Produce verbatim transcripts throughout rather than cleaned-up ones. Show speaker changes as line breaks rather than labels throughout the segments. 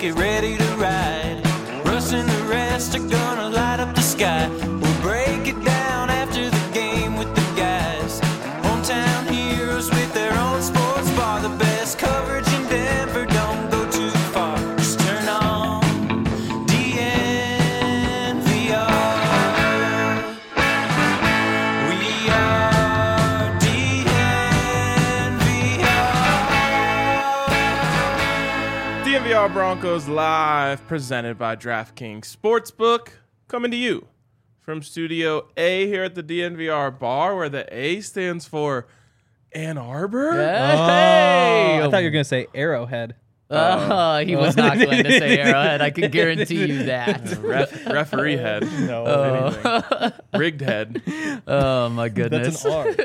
get ready to ride. Russ and the rest are gonna light up the sky. We'll break it down after the game with the guys. Hometown heroes with their own sports bar. The best coverage in Denver, don't go too far. Just turn on D N V R. We are D N V R.
D N V R Broncos Live, presented by DraftKings Sportsbook, coming to you from Studio A here at the D N V R bar, where the A stands for Ann Arbor.
Hey!
Oh, I thought you were going to say Arrowhead.
Oh, he was not going to say Arrowhead. I can guarantee you that.
Ref, referee head.
No.
Oh. Rigged head.
Oh, my goodness.
That's an R.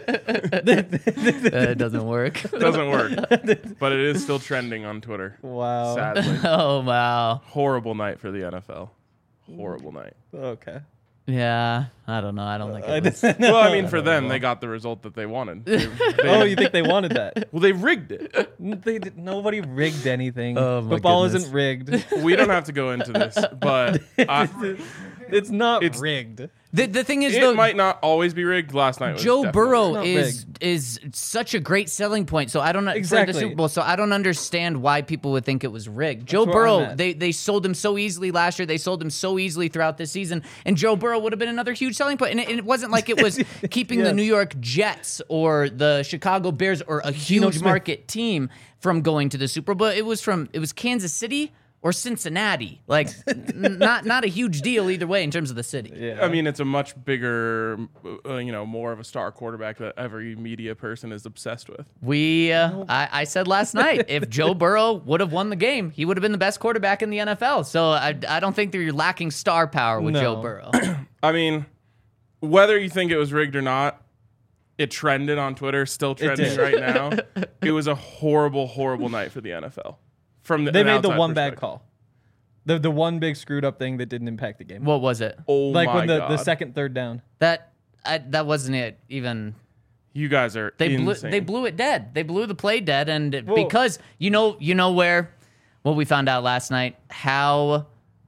That doesn't work.
Doesn't work. But it is still trending on Twitter.
Wow.
Sadly.
Oh, wow.
Horrible night for the N F L. Horrible night.
Okay.
Yeah, I don't know. I don't think
I
it was.
didn't-
Well, I mean, for them, they got the result that they wanted. They, they-
Oh, you think they wanted that?
well, they rigged it.
They did, nobody rigged anything.
Oh, my
Football
goodness.
isn't rigged.
We don't have to go into this, but I,
It's not
It's-
rigged.
The, the thing is,
it
though,
might not always be rigged. Last night was
Joe
definitely
Burrow
not
is is such a great selling point. So I don't for
Exactly.
the Super Bowl. So I don't understand why people would think it was rigged. Joe
where I'm
Burrow,
at.
they they sold him so easily last year. They sold him so easily throughout this season, and Joe Burrow would have been another huge selling point. And it, and it wasn't like it was keeping the
Yes.
New York Jets or the Chicago Bears or a huge
Smith.
market team from going to the Super Bowl. It was from it was Kansas City or Cincinnati. Like n- not not a huge deal either way in terms of the city.
Yeah.
I mean, it's a much bigger, uh, you know, more of a star quarterback that every media person is obsessed with.
We, uh, I, I said last night, if Joe Burrow would have won the game, he would have been the best quarterback in the N F L. So I, I don't think that you're lacking star power with
No.
Joe Burrow.
I mean, whether you think it was rigged or not, it trended on Twitter, still trending
did.
right now. It was a horrible, horrible night for the N F L. From the,
they
an
made the
outside
one bad
perspective.
call. The the one big screwed up thing that didn't impact the game.
What was it?
Oh
like
my
when the,
God.
the second, third down.
That I, that wasn't it. Even
You guys are
they blew
insane.
they blew it dead. They blew the play dead, and
Whoa.
because you know you know where what we found out last night how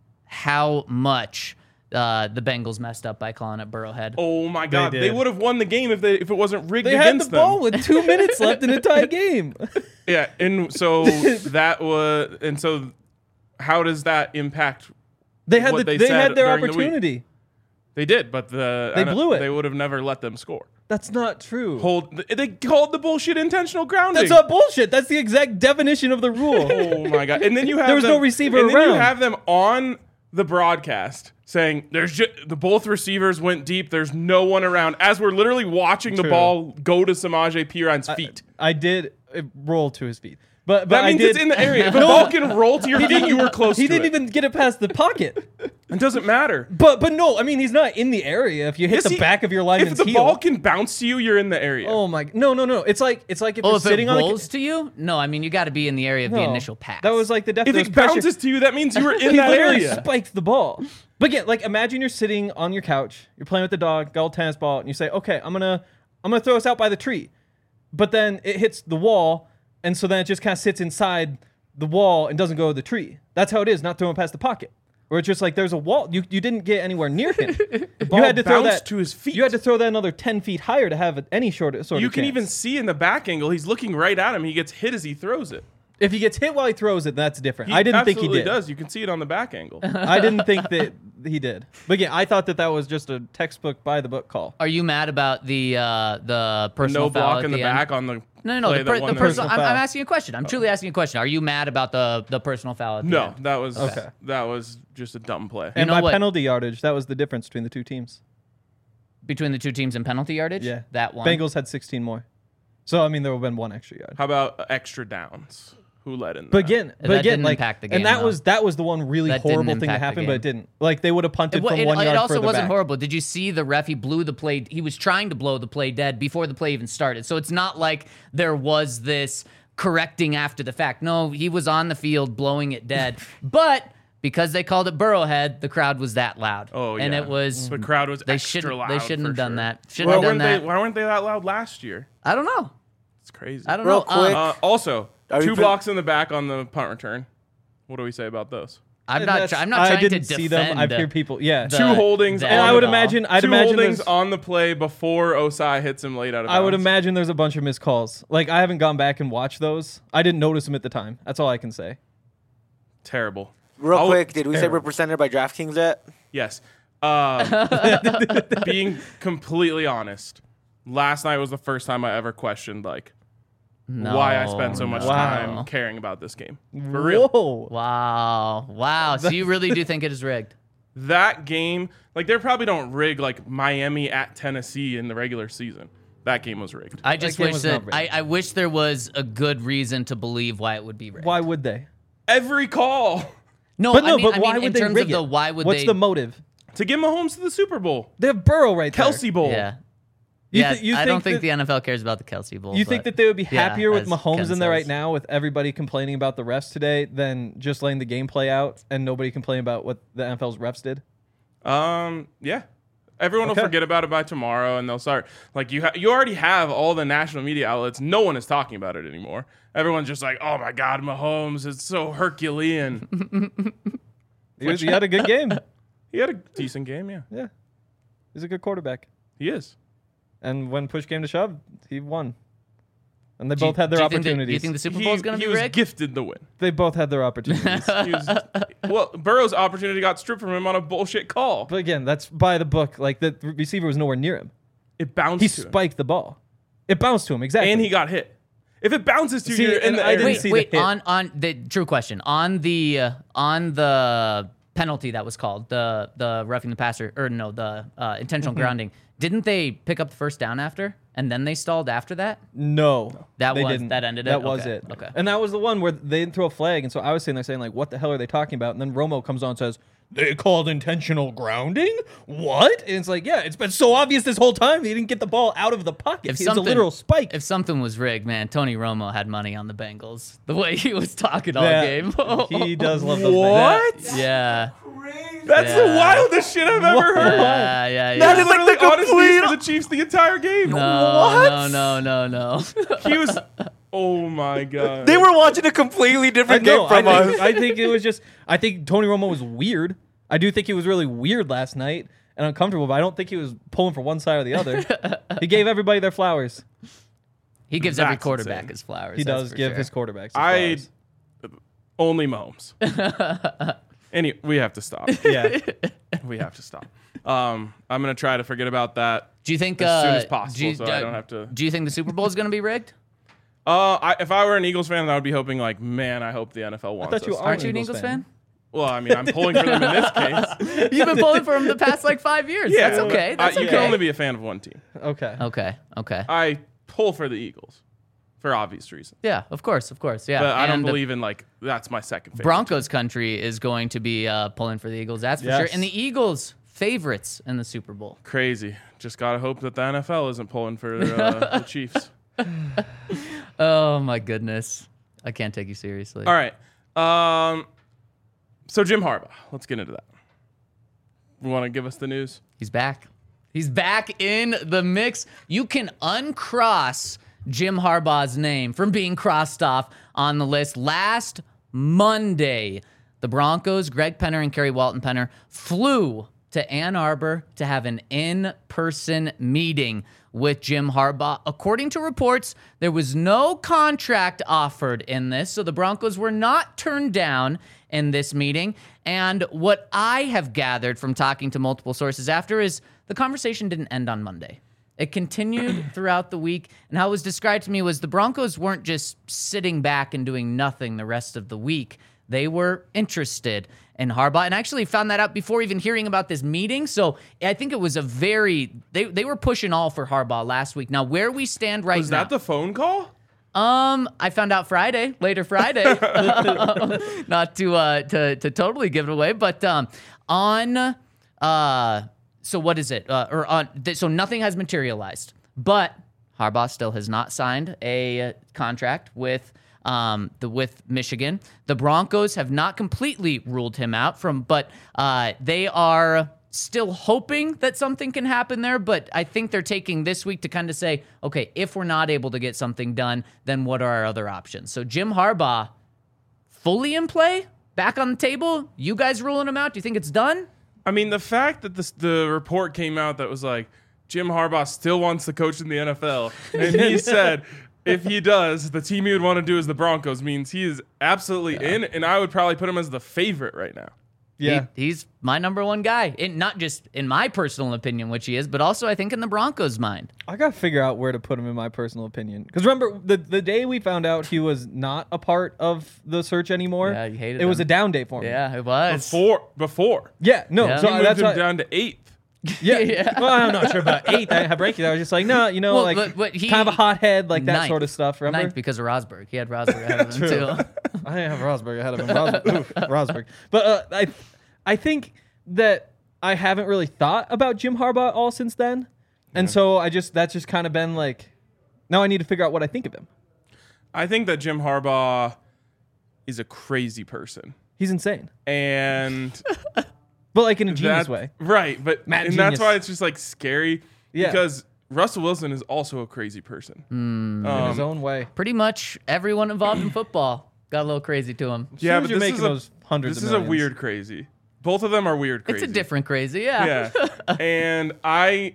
how much. Uh, the Bengals messed up by calling it Burrowhead.
Oh my God! They,
did.
would have won the game if they if it wasn't rigged
They had
against
the ball
them.
with two minutes left in a tie game.
Yeah, and so that was, and so how does that impact?
They had
What
the,
they
they,
said
had their
during the week.
opportunity.
They did, but the
They blew it.
They would have never let them score.
That's not true.
Hold. They called the bullshit intentional grounding.
That's not bullshit. That's the exact definition of the rule.
Oh my God! And then you have
There was
them,
no receiver
and then you
around.
have them on the broadcast saying there's just, the both receivers went deep. There's no one around. As we're literally watching the
True.
ball go to Samaje Perine feet.
I did uh, roll to his feet. But, but
That
I
means
did,
it's in the area. If a ball can roll to your feet, you were close
He
to
didn't
it.
even get it past the pocket.
It doesn't matter.
But but no, I mean he's not in the area. If you hit
Yes,
the
he-
back of your
If
lineman's
the
heel.
ball can bounce to you, you're in the area.
Oh my! No no no! It's like it's like if
Oh,
you're
if it
sitting on
rolls
the.
to you? No, I mean you got to be in the area of the
No.
initial pass.
That was like the def-
if
there was
it
pressure.
bounces to you, that means you were in
he
that
literally
area.
spiked the ball. But again, like imagine you're sitting on your couch, you're playing with the dog, got a tennis ball, and you say, "Okay, I'm gonna, I'm gonna throw us out by the tree," but then it hits the wall, and so then it just kind of sits inside the wall and doesn't go to the tree. That's how it is, not throwing past the pocket. Where it's just like there's a wall, you you didn't get anywhere near him. The
ball
you had to throw
bounced
that
to his feet.
You had to throw that another ten feet higher to have any short sort
You
of
can
chance.
even see in the back angle, he's looking right at him. He gets hit as he throws it.
If he gets hit while he throws it, that's different.
He
I didn't think he
absolutely
did.
does. You can see it on the back angle.
I didn't think that he did. But again, I thought that that was just a textbook by the book call.
Are you mad about the uh, the personal
No
foul
block
at
in the,
the end?
back on the
No, no, no.
play
The,
that
per,
won
the
them.
personal. I'm,
foul.
I'm asking you a question. I'm truly asking you a question. Are you mad about the the personal foul at the
No,
end?
that was
Okay.
that was just a dumb play.
And
know
by
what?
penalty yardage, that was the difference between the two teams.
Between the two teams in penalty yardage?
Yeah.
That one.
Bengals had sixteen more. So, I mean, there would have been one extra yard.
How about extra downs? Who led in that?
But again, but
That
again,
didn't
like,
impact the game,
and that
though.
was that was the one really
That didn't
horrible thing that
impact the
happened, but it
game.
didn't. Like they would have punted
It, wa-
from
it,
one
it
yard
also
further
wasn't
back.
horrible. Did you see the ref? He blew the play. He was trying to blow the play dead before the play even started. So it's not like there was this correcting after the fact. No, he was on the field blowing it dead. But because they called it Burrowhead, the crowd was that loud.
Oh yeah,
and it was
the crowd was
they
extra
shouldn't
loud.
they shouldn't
for
have done
sure.
that. Shouldn't
Why
have done
weren't
that.
they? Why weren't they that loud last year?
I don't know.
It's crazy.
I don't
Real
know. Uh,
quick.
Uh, also,
Are you
two
pre-
blocks in the back on the punt return. What do we say about those?
I'm not.
That's-
Try, I'm not
I
trying
didn't
to
see
defend.
them. I've heard people. Yeah.
the-
Two holdings
the
on
and I
the
would
ball.
imagine. I'd
Two
imagine.
holdings
there's-
on the play before Osai hits him late out of bounds.
I would imagine there's a bunch of missed calls. Like I haven't gone back and watched those. I didn't notice them at the time. That's all I can say.
Terrible.
Real
I'll-
quick, did we say
terrible.
we're presented by DraftKings yet?
Yes. Um, being completely honest, last night was the first time I ever questioned like
No,
why I spent so much
no.
time caring about this game. For real.
Whoa.
Wow. Wow. So you really do think it is rigged?
That game, like they probably don't rig like Miami at Tennessee in the regular season. That game was rigged.
I just
game
wish
was
that
not
I,
rigged.
I wish there was a good reason to believe why it would be rigged.
Why would they?
Every call
No,
But no.
I mean,
but
I
why
mean,
would
in
they
terms
rig
of the
it?
why would
What's
they?
the motive?
to get Mahomes to the Super Bowl.
They have Burrow right there.
Kelsey Bowl.
yeah.
You
yeah,
thi- you
I don't
think
think
that-
the N F L cares about the Kelsey Bowl.
You think
but-
that they would be
yeah,
happier with
as
Mahomes
Ken
in there right
says.
now, with everybody complaining about the refs today, than just letting the game play out and nobody complain about what the N F L's refs did?
Um, yeah. Everyone
Okay.
will forget about it by tomorrow, and they'll start like you. Ha- you already have all the national media outlets. No one is talking about it anymore. Everyone's just like, "Oh my God, Mahomes is so Herculean."
He, was, he had a good game.
He had a decent game, yeah.
Yeah, he's a good quarterback.
He is.
And when push came to shove, he won. And they
Do you-
both had their
do you think that-
opportunities.
Do you think the Super
He,
Bowl is going to
he
be
was
rigged?
gifted the win.
they both had their opportunities.
He was, well, Burrow's opportunity got stripped from him on a bullshit call.
But again, that's by the book. Like the receiver was nowhere near him.
It bounced
He
to him,
spiked the ball. It bounced to him exactly.
and he got hit. If it bounces to
See,
you, you're in
and
the
I
air.
didn't
Wait,
see the
wait.
hit.
On on the true question on the uh, on the penalty that was called the the roughing the passer or no the uh, intentional grounding. Didn't they pick up the first down after and then they stalled after that?
No,
That
they
was-
didn't.
that ended it?
That was
Okay,
it.
okay.
And that was the one where they didn't throw a flag, and so I was sitting there saying like, "What the hell are they talking about?" And then Romo comes on and says, "They called intentional grounding." What? And it's like, yeah, it's been so obvious this whole time. He didn't get the ball out of the pocket.
If
It's a
something-
literal spike.
If something was rigged, man, Tony Romo had money on the Bengals. The way he was talking all
Yeah,
game.
he does love those.
What?
yeah.
That's the
Yeah.
wildest shit I've ever heard.
Yeah, yeah, yeah.
That is like the
Literally, honestly,
complete-
for the Chiefs the entire game.
no,
What?
no, no, no, no.
He was. Oh my God.
They were watching a completely
I
different
know.
game from
I
us.
think, I think it was just. I think Tony Romo was weird. I do think he was really weird last night and uncomfortable, but I don't think he was pulling for one side or the other. He gave everybody their flowers.
He gives every
That's
quarterback
insane.
his flowers.
He
that's
does
for
give
sure.
his quarterbacks. His
I
flowers.
only Mahomes. Any, we have to stop.
Yeah.
We have to stop. Um, I'm gonna try to forget about that.
Do you think
as soon
uh,
as possible,
do you,
so I don't have to-
Do you think the Super Bowl is going to be rigged?
Uh, I, if I were an Eagles fan, I would be hoping like, man, I hope the N F L wants
thought you
us.
are
Aren't you an
Eagles
Eagles
fan.
fan?
Well, I mean, I'm pulling for them in this case.
You've been pulling for him the past like five years.
Yeah,
That's okay. That's
I,
okay.
You can only be a fan of one team.
Okay.
okay. Okay.
I pull for the Eagles for obvious reasons,
Yeah. Of course. Of course. Yeah.
but I don't
And
believe in like that's my second favorite.
Broncos country is going to be uh, pulling for the Eagles. That's for
Yes.
sure. And the Eagles favorites in the Super Bowl.
Crazy. Just gotta hope that the N F L isn't pulling for uh, the Chiefs.
Oh my goodness. I can't take you seriously.
All right. Um, so Jim Harbaugh. Let's get into that. You want to give us the news?
He's back. He's back in the mix. You can uncross Jim Harbaugh's name from being crossed off on the list. Last Monday, the Broncos, Greg Penner and Kerry Walton Penner, flew to Ann Arbor to have an in-person meeting with Jim Harbaugh. According to reports, there was no contract offered in this, so the Broncos were not turned down in this meeting. And what I have gathered from talking to multiple sources after is the conversation didn't end on Monday. It continued throughout the week, and how it was described to me was the Broncos weren't just sitting back and doing nothing the rest of the week. They were interested in Harbaugh, and I actually found that out before even hearing about this meeting. So I think it was a very they they were pushing all for Harbaugh last week. Now where we stand right
Was
now,
that the phone call?
um, I found out Friday, later Friday, not to uh to to totally give it away, but um on uh so what is it uh, or on th- so nothing has materialized, but Harbaugh still has not signed a uh, contract with. Um, the with Michigan, the Broncos have not completely ruled him out from, but uh, they are still hoping that something can happen there. But I think they're taking this week to kind of say, okay, if we're not able to get something done, then what are our other options? So Jim Harbaugh, fully in play, back on the table? You guys ruling him out? Do you think it's done?
I mean, the fact that this, the report came out that was like, Jim Harbaugh still wants to coach in the N F L, and he said if he does, the team he would want to do is the Broncos, means he is absolutely yeah. in, and I would probably put him as the favorite right now.
Yeah,
he, he's my number one guy. In, not just in my personal opinion, which he is, but also I think in the Broncos' mind.
I gotta figure out where to put him in my personal opinion. Because remember, the the day we found out he was not a part of the search anymore,
yeah, you hated
it
him.
was a down day for me.
Yeah, it was.
Before, before.
Yeah, no,
Yeah.
so
He moved
that's
him
why,
down to eighth.
Yeah,
Yeah.
Well, I'm not sure about eighth. I have ranking. I was just like, no, you know,
Well,
like
but- but he-
kind of a hothead, like that
Ninth.
sort of stuff. Remember?
Ninth because of Rosberg. He had Rosberg ahead of him, too.
I didn't have Rosberg ahead of him. Rosberg, oof, Rosberg. But uh, I, I think that I haven't really thought about Jim Harbaugh all since then, and
Yeah.
so I just that's just kind of been like, now I need to figure out what I think of him.
I think that Jim Harbaugh is a crazy person,
He's insane,
and
but like in a genius
that-
way.
right? But
Mad
and that's
genius.
why it's just like scary
Yeah.
because Russell Wilson is also a crazy person.
In
Um,
his own way.
Pretty much everyone involved in football got a little crazy to him.
yeah,
as
but
you're
this
making
is a,
those hundreds
This
of
is a
millions.
weird crazy. Both of them are weird crazy.
It's a different crazy, yeah.
Yeah. And I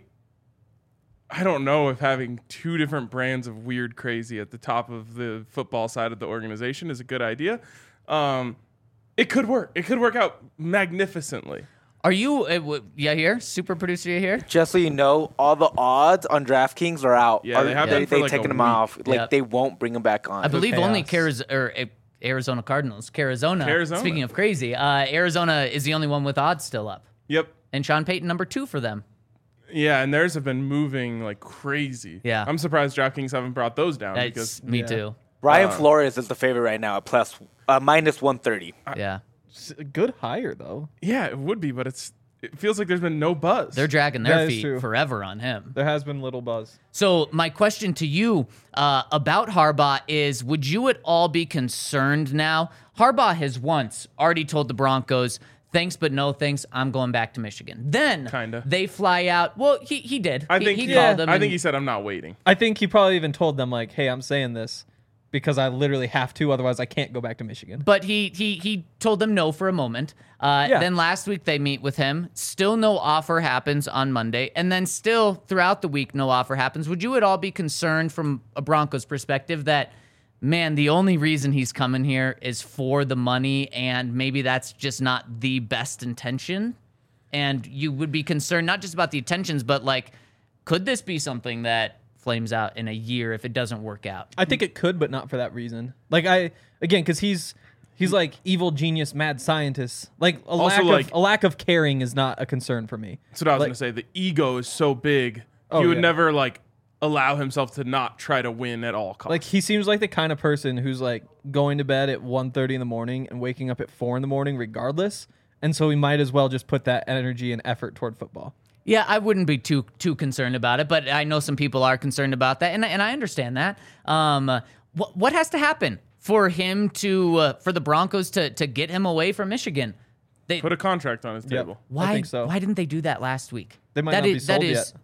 I don't know if having two different brands of weird crazy at the top of the football side of the organization is a good idea. Um, it could work. It could work out magnificently.
Are you, uh, w- yeah, here? Super producer, you here?
Just so you know, all the odds on DraftKings are out.
Yeah,
Are-
they have
they,
been for
they
like a
taking them
week.
off. Like
Yep.
they won't bring them back on.
I believe
chaos.
only Cariz- or, uh, Arizona Cardinals. Arizona.
Arizona.
Speaking of crazy, uh, Arizona is the only one with odds still up.
Yep.
And Sean Payton, number two for them.
Yeah, and theirs have been moving like crazy.
Yeah.
I'm surprised DraftKings haven't brought those down
That's
because
me
yeah.
too.
Ryan
uh,
Flores is the favorite right now at plus uh, minus one thirty.
Yeah.
It's a good hire though.
yeah, it would be, but it's it feels like there's been no buzz.
They're dragging
That
their
is
feet
true.
forever on him.
There has been little buzz.
So my question to you uh, about Harbaugh is, would you at all be concerned now? Harbaugh has once already told the Broncos, thanks, but no thanks, I'm going back to Michigan. Then
Kinda.
they fly out. Well, he, he did.
I
He-
think
he,
he,
called them.
I
and-
think he said I'm not waiting.
I think he probably even told them like, "Hey, I'm saying this because I literally have to, otherwise I can't go back to Michigan."
But he he he told them no for a moment. Uh,
Yeah.
Then last week they meet with him. Still no offer happens on Monday, and then still throughout the week no offer happens. Would you at all be concerned from a Broncos perspective that, man, the only reason he's coming here is for the money, and maybe that's just not the best intention? And you would be concerned not just about the intentions, but like, could this be something that flames out in a year if it doesn't work out?
I think it could, but not for that reason. Like I again, because he's he's like evil genius, mad scientist. Like a
Also,
lack
like-
of a lack of caring is not a concern for me.
That's what I was
Like-
gonna say. The ego is so big.
Oh,
he would
yeah.
never like allow himself to not try to win at all costs.
Like he seems like the kind of person who's like going to bed at one thirty in the morning and waking up at four in the morning regardless. And so we might as well just put that energy and effort toward football.
Yeah, I wouldn't be too too concerned about it, but I know some people are concerned about that, and and I understand that. Um, what what has to happen for him to uh, for the Broncos to to get him away from Michigan? They
Put a contract on his
Yep.
table.
why
I think so.
why didn't they do that last week?
They might
That
not be
is- that
sold
is-
yet.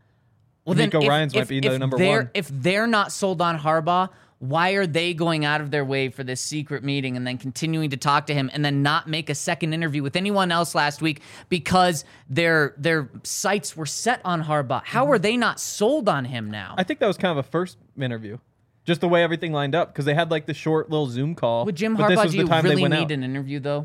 Well, then
D'Amico
if,
Ryans might
if-
be the
if
number
they're,
one.
If they're not sold on Harbaugh, why are they going out of their way for this secret meeting and then continuing to talk to him and then not make a second interview with anyone else last week because their their sights were set on Harbaugh? How are they not sold on him now?
I think that was kind of a first interview. Just the way everything lined up, because they had like the short little Zoom call.
With Jim
but this
Harbaugh,
was
do
the
you
time they
really
went
need
out.
an interview though?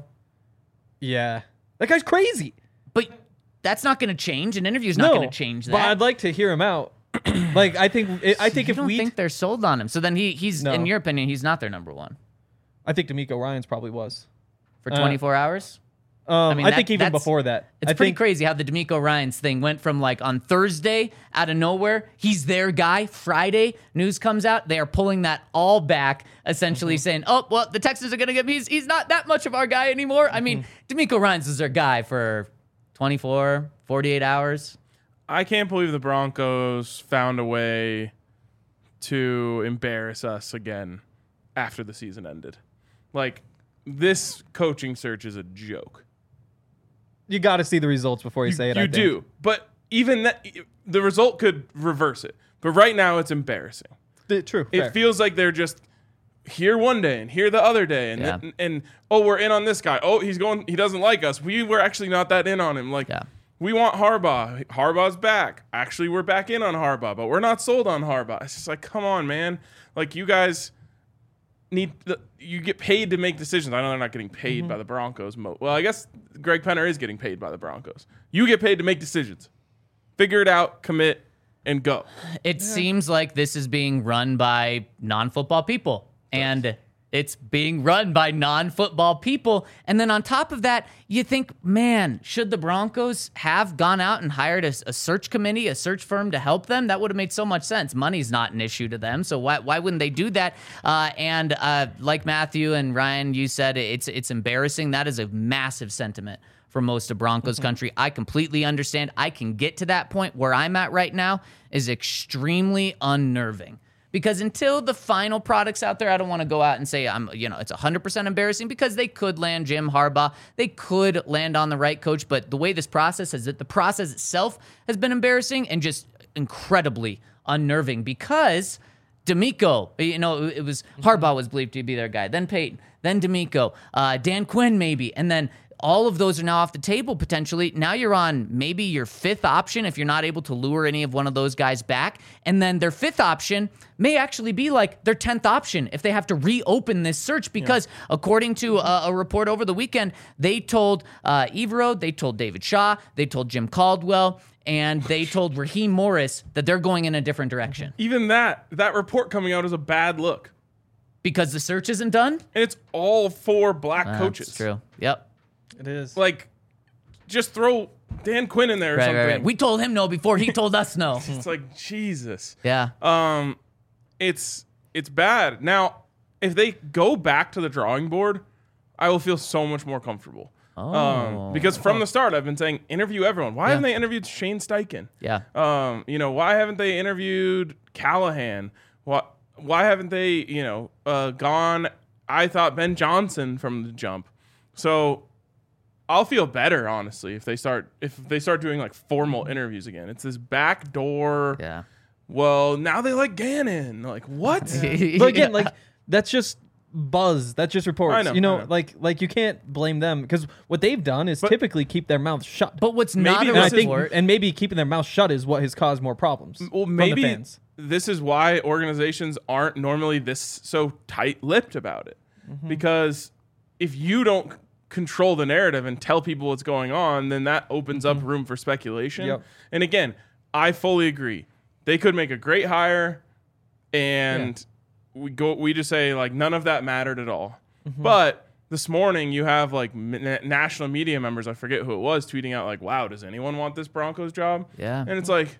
Yeah, that guy's crazy.
But that's not going to change. An interview's not
no,
going to change that.
But I'd like to hear him out. Like I think I think
you
if
don't
we
think they're sold on him. So then he he's
No.
in your opinion he's not their number one
I think D'Amico Ryans probably was.
for
Uh,
twenty-four hours.
Um, I,
mean, that-
think even
that's-
before that.
It's
I
pretty
think,
crazy how the D'Amico Ryans thing went from like on Thursday out of nowhere, he's their guy. Friday, news comes out, they are pulling that all back, essentially
Mm-hmm.
saying, oh, well, the Texans are going to get he's he's not that much of our guy anymore. I mean,
Mm-hmm.
D'Amico Ryans is their guy for twenty-four, forty-eight hours.
I can't believe the Broncos found a way to embarrass us again after the season ended. Like, this coaching search is a joke.
You got to see the results before you, say it.
You
I think.
do. But even that, the result could reverse it. But right now, it's embarrassing.
D- True.
It
fair.
feels like they're just here one day and here the other day, and
Yeah.
then, and oh, we're in on this guy. Oh, he's going. He doesn't like us. We were actually not that in on him. Like
Yeah.
we want Harbaugh. Harbaugh's back. Actually, we're back in on Harbaugh, but we're not sold on Harbaugh. It's just like, come on, man. Like you guys need the, you get paid to make decisions. I know they're not getting paid
Mm-hmm.
by the Broncos. Mo- well, I guess Greg Penner is getting paid by the Broncos. You get paid to make decisions. Figure it out, commit, and go.
It seems like this is being run by non-football people. And it's being run by non-football people. And then on top of that, you think, man, should the Broncos have gone out and hired a, a search committee, a search firm to help them? That would have made so much sense. Money's not an issue to them, so why why wouldn't they do that? Uh, and uh, like Matthew and Ryan, you said, it's it's embarrassing. That is a massive sentiment for most of Broncos country. I completely understand. I can get to that point. Where I'm at right now is extremely unnerving. Because until the final product's out there, I don't want to go out and say I'm, you know, it's one hundred percent embarrassing because they could land Jim Harbaugh. They could land on the right coach. But the way this process is, that the process itself has been embarrassing and just incredibly unnerving because D'Amico, you know, it was Harbaugh was believed to be their guy. Then Peyton, then D'Amico, uh, Dan Quinn maybe. And then all of those are now off the table potentially. Now you're on maybe your fifth option if you're not able to lure any of one of those guys back. And then their fifth option may actually be like their tenth option if they have to reopen this search because yeah. according to a, a report over the weekend, they told uh, Evero, they told David Shaw, they told Jim Caldwell, and they told Raheem Morris that they're going in a different direction.
Even that, that report coming out is a bad look.
Because the search isn't done?
And it's all four black
That's
coaches.
true. Yep.
It is.
Like, just throw Dan Quinn in there or
Right,
something.
right, right. We told him no before he told us no.
It's like, Jesus.
Yeah.
Um, it's it's bad. Now, if they go back to the drawing board, I will feel so much more comfortable.
Oh.
Um, because from the start, I've been saying interview everyone. Why
Yeah.
haven't they interviewed Shane Steichen?
Yeah.
Um, you know, why haven't they interviewed Callahan? Why why haven't they, you know, uh, gone? I thought Ben Johnson from the jump. So I'll feel better, honestly, if they start if they start doing like formal interviews again. It's this back door.
Yeah.
Well, now they like Gannon. Like what?
But again, like that's just buzz. That's just reports.
I know,
you know,
I know.
like like you can't blame them because what they've done is
But-
typically keep their mouths shut.
But what's
Maybe
not a
this
and I
is
think,
report,
and maybe keeping their mouth shut is what has caused more problems.
Well,
from
maybe
the fans.
this is why organizations aren't normally this so tight-lipped about it.
Mm-hmm.
Because if you don't control the narrative and tell people what's going on, then that opens up room for speculation.
Mm-hmm. Yep.
And again, I fully agree. They could make a great hire, and we go. We just say like none of that mattered at all.
Mm-hmm.
But this morning you have like m- national media members, I forget who it was, tweeting out like, "Wow, does anyone want this Broncos job?"
Yeah.
And it's like,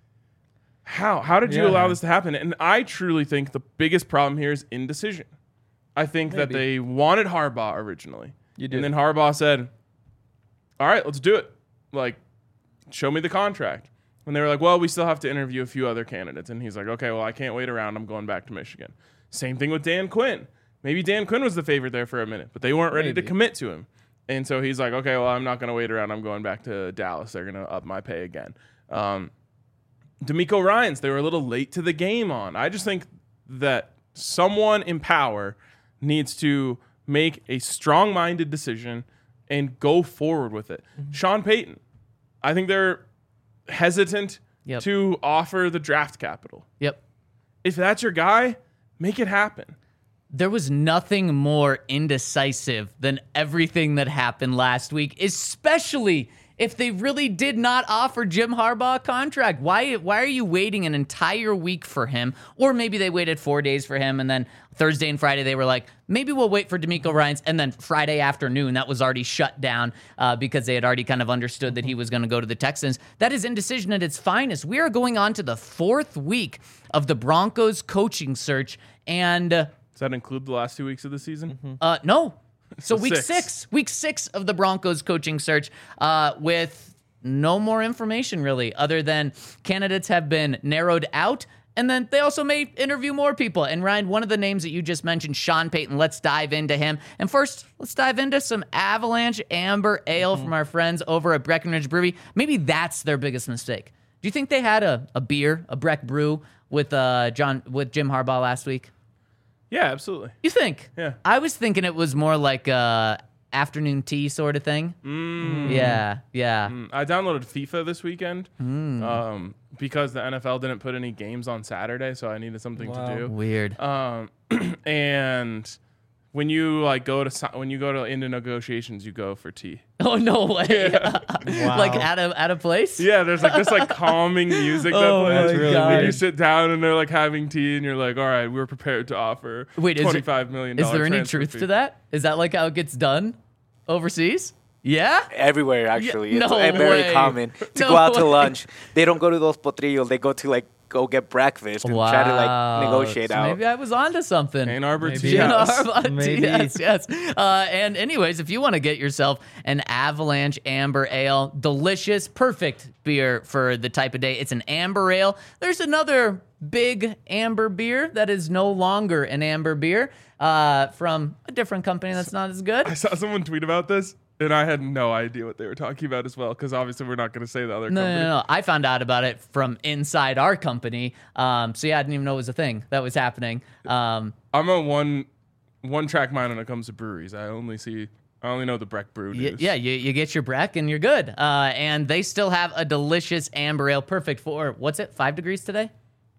how? How did you
Yeah.
allow this to happen? And I truly think the biggest problem here is indecision. I think that
Maybe.
they wanted Harbaugh originally.
You did.
And then Harbaugh said, all right, let's do it. Like, show me the contract. And they were like, well, we still have to interview a few other candidates. And he's like, okay, well, I can't wait around. I'm going back to Michigan. Same thing with Dan Quinn. Maybe Dan Quinn was the favorite there for a minute, but they weren't ready
Maybe.
to commit to him. And so he's like, okay, well, I'm not going to wait around. I'm going back to Dallas. They're going to up my pay again. Um, D'Amico Ryans, they were a little late to the game on. I just think that someone in power needs to make a strong-minded decision and go forward with it.
Mm-hmm.
Sean Payton, I think they're hesitant
Yep.
to offer the draft capital.
Yep.
If that's your guy, make it happen.
There was nothing more indecisive than everything that happened last week, especially if they really did not offer Jim Harbaugh a contract. Why why are you waiting an entire week for him? Or maybe they waited four days for him, and then Thursday and Friday they were like, maybe we'll wait for D'Amico Ryans, and then Friday afternoon that was already shut down uh, because they had already kind of understood that he was going to go to the Texans. That is indecision at its finest. We are going on to the fourth week of the Broncos coaching search, and uh,
Does that include the last two weeks of the season?
uh, no. So week
Six.
six. week six of the Broncos coaching search uh, with no more information really other than candidates have been narrowed out. And then they also may interview more people. And Ryan, one of the names that you just mentioned, Sean Payton, let's dive into him. And first, let's dive into some Avalanche Amber Ale from our friends over at Breckenridge Brewery. Maybe that's their biggest mistake. Do you think they had a, a beer, a Breck Brew with uh, John with Jim Harbaugh last week?
Yeah, absolutely.
You think?
Yeah.
I was thinking it was more like a afternoon tea sort of thing.
Mm.
Yeah, yeah.
Mm, I downloaded FIFA this weekend
Mm.
um, because the N F L didn't put any games on Saturday, so I needed something
Wow.
to do.
Weird.
Um, and when you like go to si- when you go to into negotiations, you go for tea.
Oh no way!
Wow.
Like at a at a place.
Yeah, there's like this like calming music that
Oh,
plays.
my
really
God.
And you
weird.
sit down and they're like having tea, and you're like, all right, we're prepared to offer
Wait, is it-
twenty-five million.
Is there any
transfer
truth
fee.
to that? Is that like how it gets done overseas? Yeah.
Everywhere, actually.
no
it's uh, very
way.
common to
No
go out to
way.
lunch. They don't go to those potrillos. They go to like go get breakfast and try to like negotiate
So
out.
Maybe I was onto something.
Ann Arbor
Maybe.
Tea
Gin
House?
Arbor,
Maybe.
yes, yes. Uh, and anyways, if you want to get yourself an Avalanche Amber Ale, delicious, perfect beer for the type of day. It's an amber ale. There's another big amber beer that is no longer an amber beer uh, from a different company that's not as good.
I saw someone tweet about this, and I had no idea what they were talking about as well, because obviously we're not going to say the other
No,
company.
no, no. I found out about it from inside our company. Um, so yeah, I didn't even know it was a thing that was happening. Um,
I'm a one one track mind when it comes to breweries. I only see I only know the Breck Brew
Y-
news.
yeah, you, you get your Breck and you're good. Uh, and they still have a delicious amber ale, perfect for what's it? Five degrees today?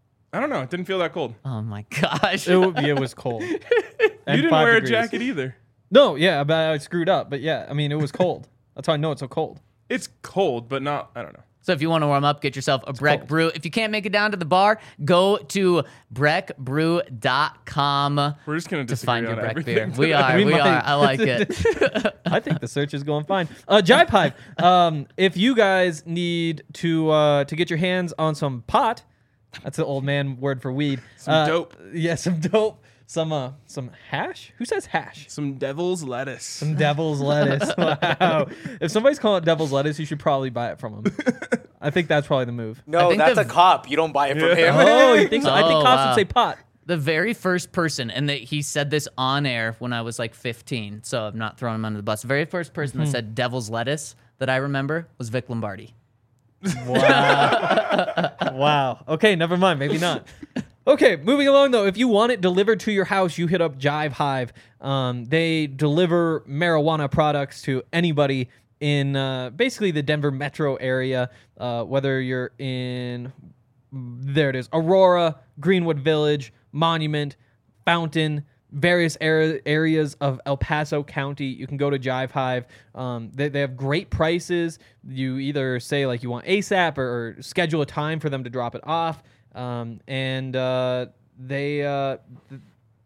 I don't know. It didn't feel that cold.
Oh my gosh!
It, w- yeah, it was cold.
You didn't wear a jacket either.
No, yeah, but I screwed up. But yeah, I mean, it was cold. That's how I know it's so cold.
It's cold, but not. I don't know.
So if you want to warm up, get yourself a Breck
cold.
Brew. If you can't make it down to the bar, go to breck brew dot com
We're just gonna
to
disagree
find your
on
Breck
everything
beer. We
today.
are,
We
we
might.
are. I like it.
I think the search is going fine. Uh, Jive Hive. Um, if you guys need to uh, to get your hands on some pot, that's the old man word for weed.
Some
Uh,
dope.
Yeah, some dope. Some uh, some hash. Who says hash?
Some devil's lettuce.
Some devil's lettuce. Wow. If somebody's calling it devil's lettuce, you should probably buy it from them. I think that's probably the move.
No,
think
that's
the-
a cop. You don't buy it from
Yeah.
him.
Oh, you think so? I think
Oh,
cops
wow.
would say pot.
The very first person, and that he said this on air when I was like fifteen, so I'm not throwing him under the bus. The very first person that said devil's lettuce that I remember was Vic Lombardi.
Wow. Wow. Okay, never mind. Maybe not. Okay, moving along though. If you want it delivered to your house, you hit up Jive Hive. Um, they deliver marijuana products to anybody in uh, basically the Denver metro area, uh, whether you're in, there it is, Aurora, Greenwood Village, Monument, Fountain, various ar- areas of El Paso County. You can go to Jive Hive. Um, they, they have great prices. You either say like you want ASAP or, or schedule a time for them to drop it off. Um, and uh, they uh, th-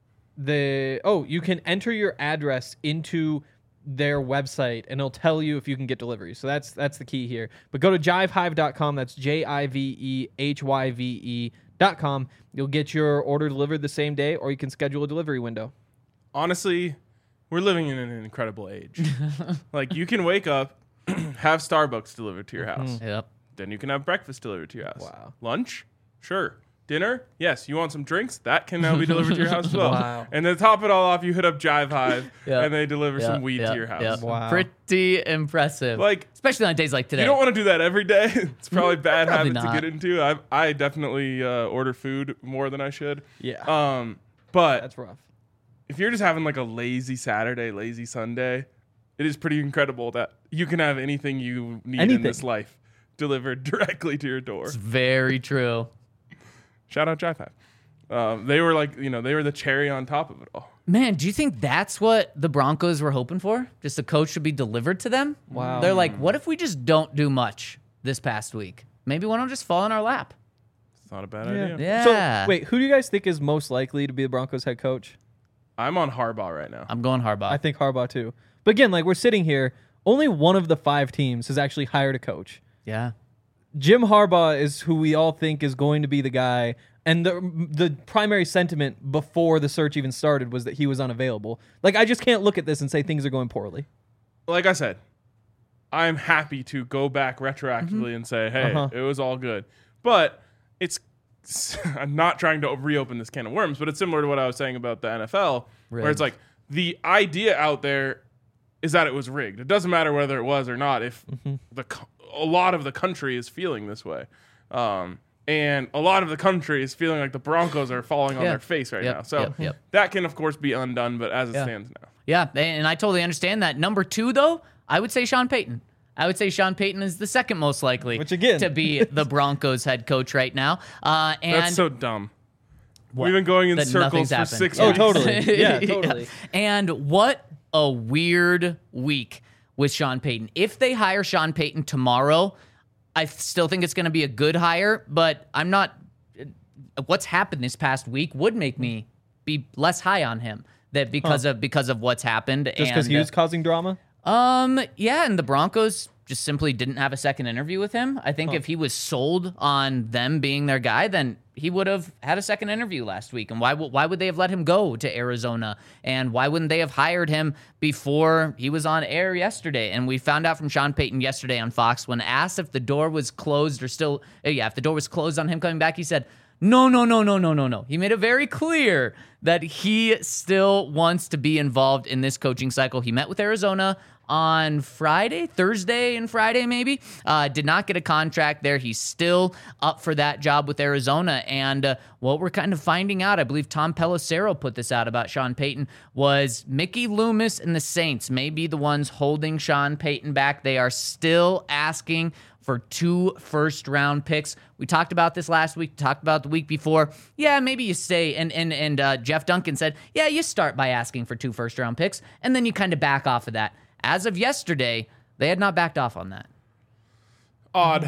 they oh you can enter your address into their website and it'll tell you if you can get delivery. So that's that's the key here. But go to jive hive dot com. That's J I V E H Y V E dot com. You'll get your order delivered the same day, or you can schedule a delivery window.
Honestly, we're living in an incredible age. Like you can wake up, have Starbucks delivered to your house.
Yep.
Then you can have breakfast delivered to your house.
Wow.
Lunch? Sure. Dinner? Yes. You want some drinks? That can now be delivered to your house as well.
Wow.
And then top it all off, you hit up Jive Hive
Yep.
and they deliver
Yep,
some weed
yep,
to your house.
yep.
Wow.
Pretty impressive.
Like,
especially on days like today.
you don't want to do that every day. It's probably a bad
Probably
habit
not.
to get into. I I definitely uh, order food more than I should.
Yeah,
Um, but
that's rough.
if you're just having like a lazy Saturday, lazy Sunday, it is pretty incredible that you can have anything you need in
Anything.
this life delivered directly to your door.
It's very true.
Shout out Jive Hive. Um, they were like, you know, they were the cherry on top of it all.
Man, do you think that's what the Broncos were hoping for? Just a coach to be delivered to them?
Wow.
They're like, what if we just don't do much this past week? Maybe one will just fall in our lap.
It's not a bad
Yeah.
idea.
Yeah.
So wait, who do you guys think is most likely to be the Broncos head coach?
I'm on Harbaugh right now.
I'm going Harbaugh.
I think Harbaugh too. But again, like we're sitting here, only one of the five teams has actually hired a coach.
yeah.
Jim Harbaugh is who we all think is going to be the guy. And the the primary sentiment before the search even started was that he was unavailable. Like I just can't look at this and say things are going poorly.
Like I said, I'm happy to go back retroactively and say, hey,
Uh-huh.
it was all good. But it's, I'm not trying to reopen this can of worms, but it's similar to what I was saying about the N F L, where it's like the idea out there is that it was rigged. It doesn't matter whether it was or not if the co- a lot of the country is feeling this way. Um, And a lot of the country is feeling like the Broncos are falling on
Yeah.
their face right
Yep,
now. So
yep, yep.
that can, of course, be undone, but as it
Yeah.
stands now.
Yeah, and I totally understand that. Number two, though, I would say Sean Payton. I would say Sean Payton is the second most likely
Which, again-
to be the Broncos head coach right now. Uh, and
That's so dumb.
What?
We've been going in
That
circles
nothing's
for
happened.
six
Yeah.
Oh,
weeks.
totally. Yeah, totally.
And what a weird week with Sean Payton. If they hire Sean Payton tomorrow, I still think it's going to be a good hire, but I'm not. What's happened this past week would make me be less high on him. That because of because of what's happened.
Just because
and,
he was causing drama?
um, yeah, and the Broncos just simply didn't have a second interview with him. I think if he was sold on them being their guy, then he would have had a second interview last week. And why w- why would they have let him go to Arizona? And why wouldn't they have hired him before he was on air yesterday? And we found out from Sean Payton yesterday on Fox when asked if the door was closed or still, uh, yeah, if the door was closed on him coming back, he said, no, no, no, no, no, no, no. He made it very clear that he still wants to be involved in this coaching cycle. He met with Arizona on Friday, Thursday and Friday maybe. Uh, did not get a contract there. He's still up for that job with Arizona. And uh, what we're kind of finding out, I believe Tom Pelissero put this out about Sean Payton, was Mickey Loomis and the Saints may be the ones holding Sean Payton back. They are still asking for two first-round picks. We talked about this last week, talked about the week before. Yeah, maybe you stay. And and and uh, Jeff Duncan said, yeah, you start by asking for two first-round picks, and then you kind of back off of that. As of yesterday, they had not backed off on that.
Odd,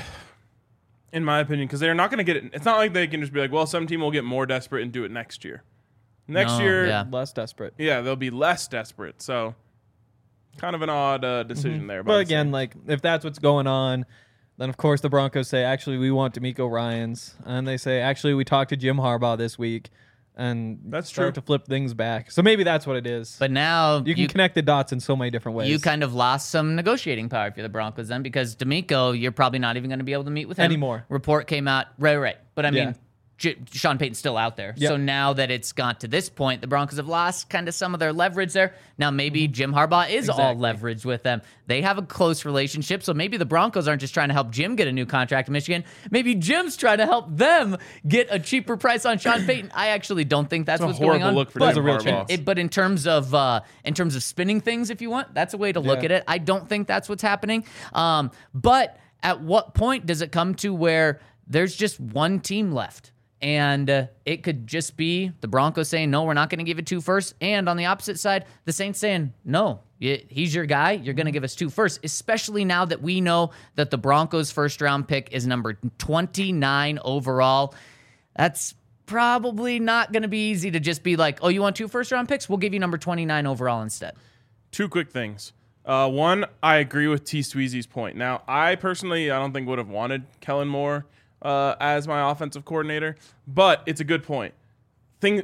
in my opinion, because they're not going to get it. It's not like they can just be like, well, some team will get more desperate and do it next year. Next
No,
year,
yeah.
yeah.
Less desperate.
they'll be less desperate. So kind of an odd uh, decision
Mm-hmm.
there. by
But
the
again,
Saints.
like, if that's what's going on, then of course the Broncos say, actually, we want D'Amico Ryans. And they say, actually, we talked to Jim Harbaugh this week. And
That's
start
true.
to flip things back. So maybe that's what it is.
But now
you can connect the dots in so many different ways.
you kind of lost some negotiating power for the Broncos then, because D'Amico, you're probably not even going to be able to meet with him
Anymore.
Report came out, right, right. But I
Yeah.
mean, J- Sean Payton's still out there.
Yep.
So now that it's got to this point, the Broncos have lost kind of some of their leverage there. Now maybe
Mm-hmm.
Jim Harbaugh is all
Exactly.
leverage with them. They have a close relationship, so maybe the Broncos aren't just trying to help Jim get a new contract in Michigan. Maybe Jim's trying to help them get a cheaper price on Sean Payton. I actually don't think that's
It's a
what's going
horrible
on.
look for
but,
Jim
a real
Harbaugh.
chance.
it- but in terms of uh, in terms of spinning things, if you want, that's a way to look
Yeah.
at it. I don't think that's what's happening. Um, but at what point does it come to where there's just one team left? And uh, it could just be the Broncos saying, no, we're not going to give it two first. And on the opposite side, the Saints saying, no, y- he's your guy. You're going to give us two first, especially now that we know that the Broncos' first round pick is number twenty-nine overall. That's probably not going to be easy to just be like, oh, you want two first round picks? We'll give you number twenty-nine overall instead.
Two quick things. Uh, one, I agree with T. Sweezy's point. Now, I personally, I don't think would have wanted Kellen Moore uh, as my offensive coordinator, but it's a good point. Thing,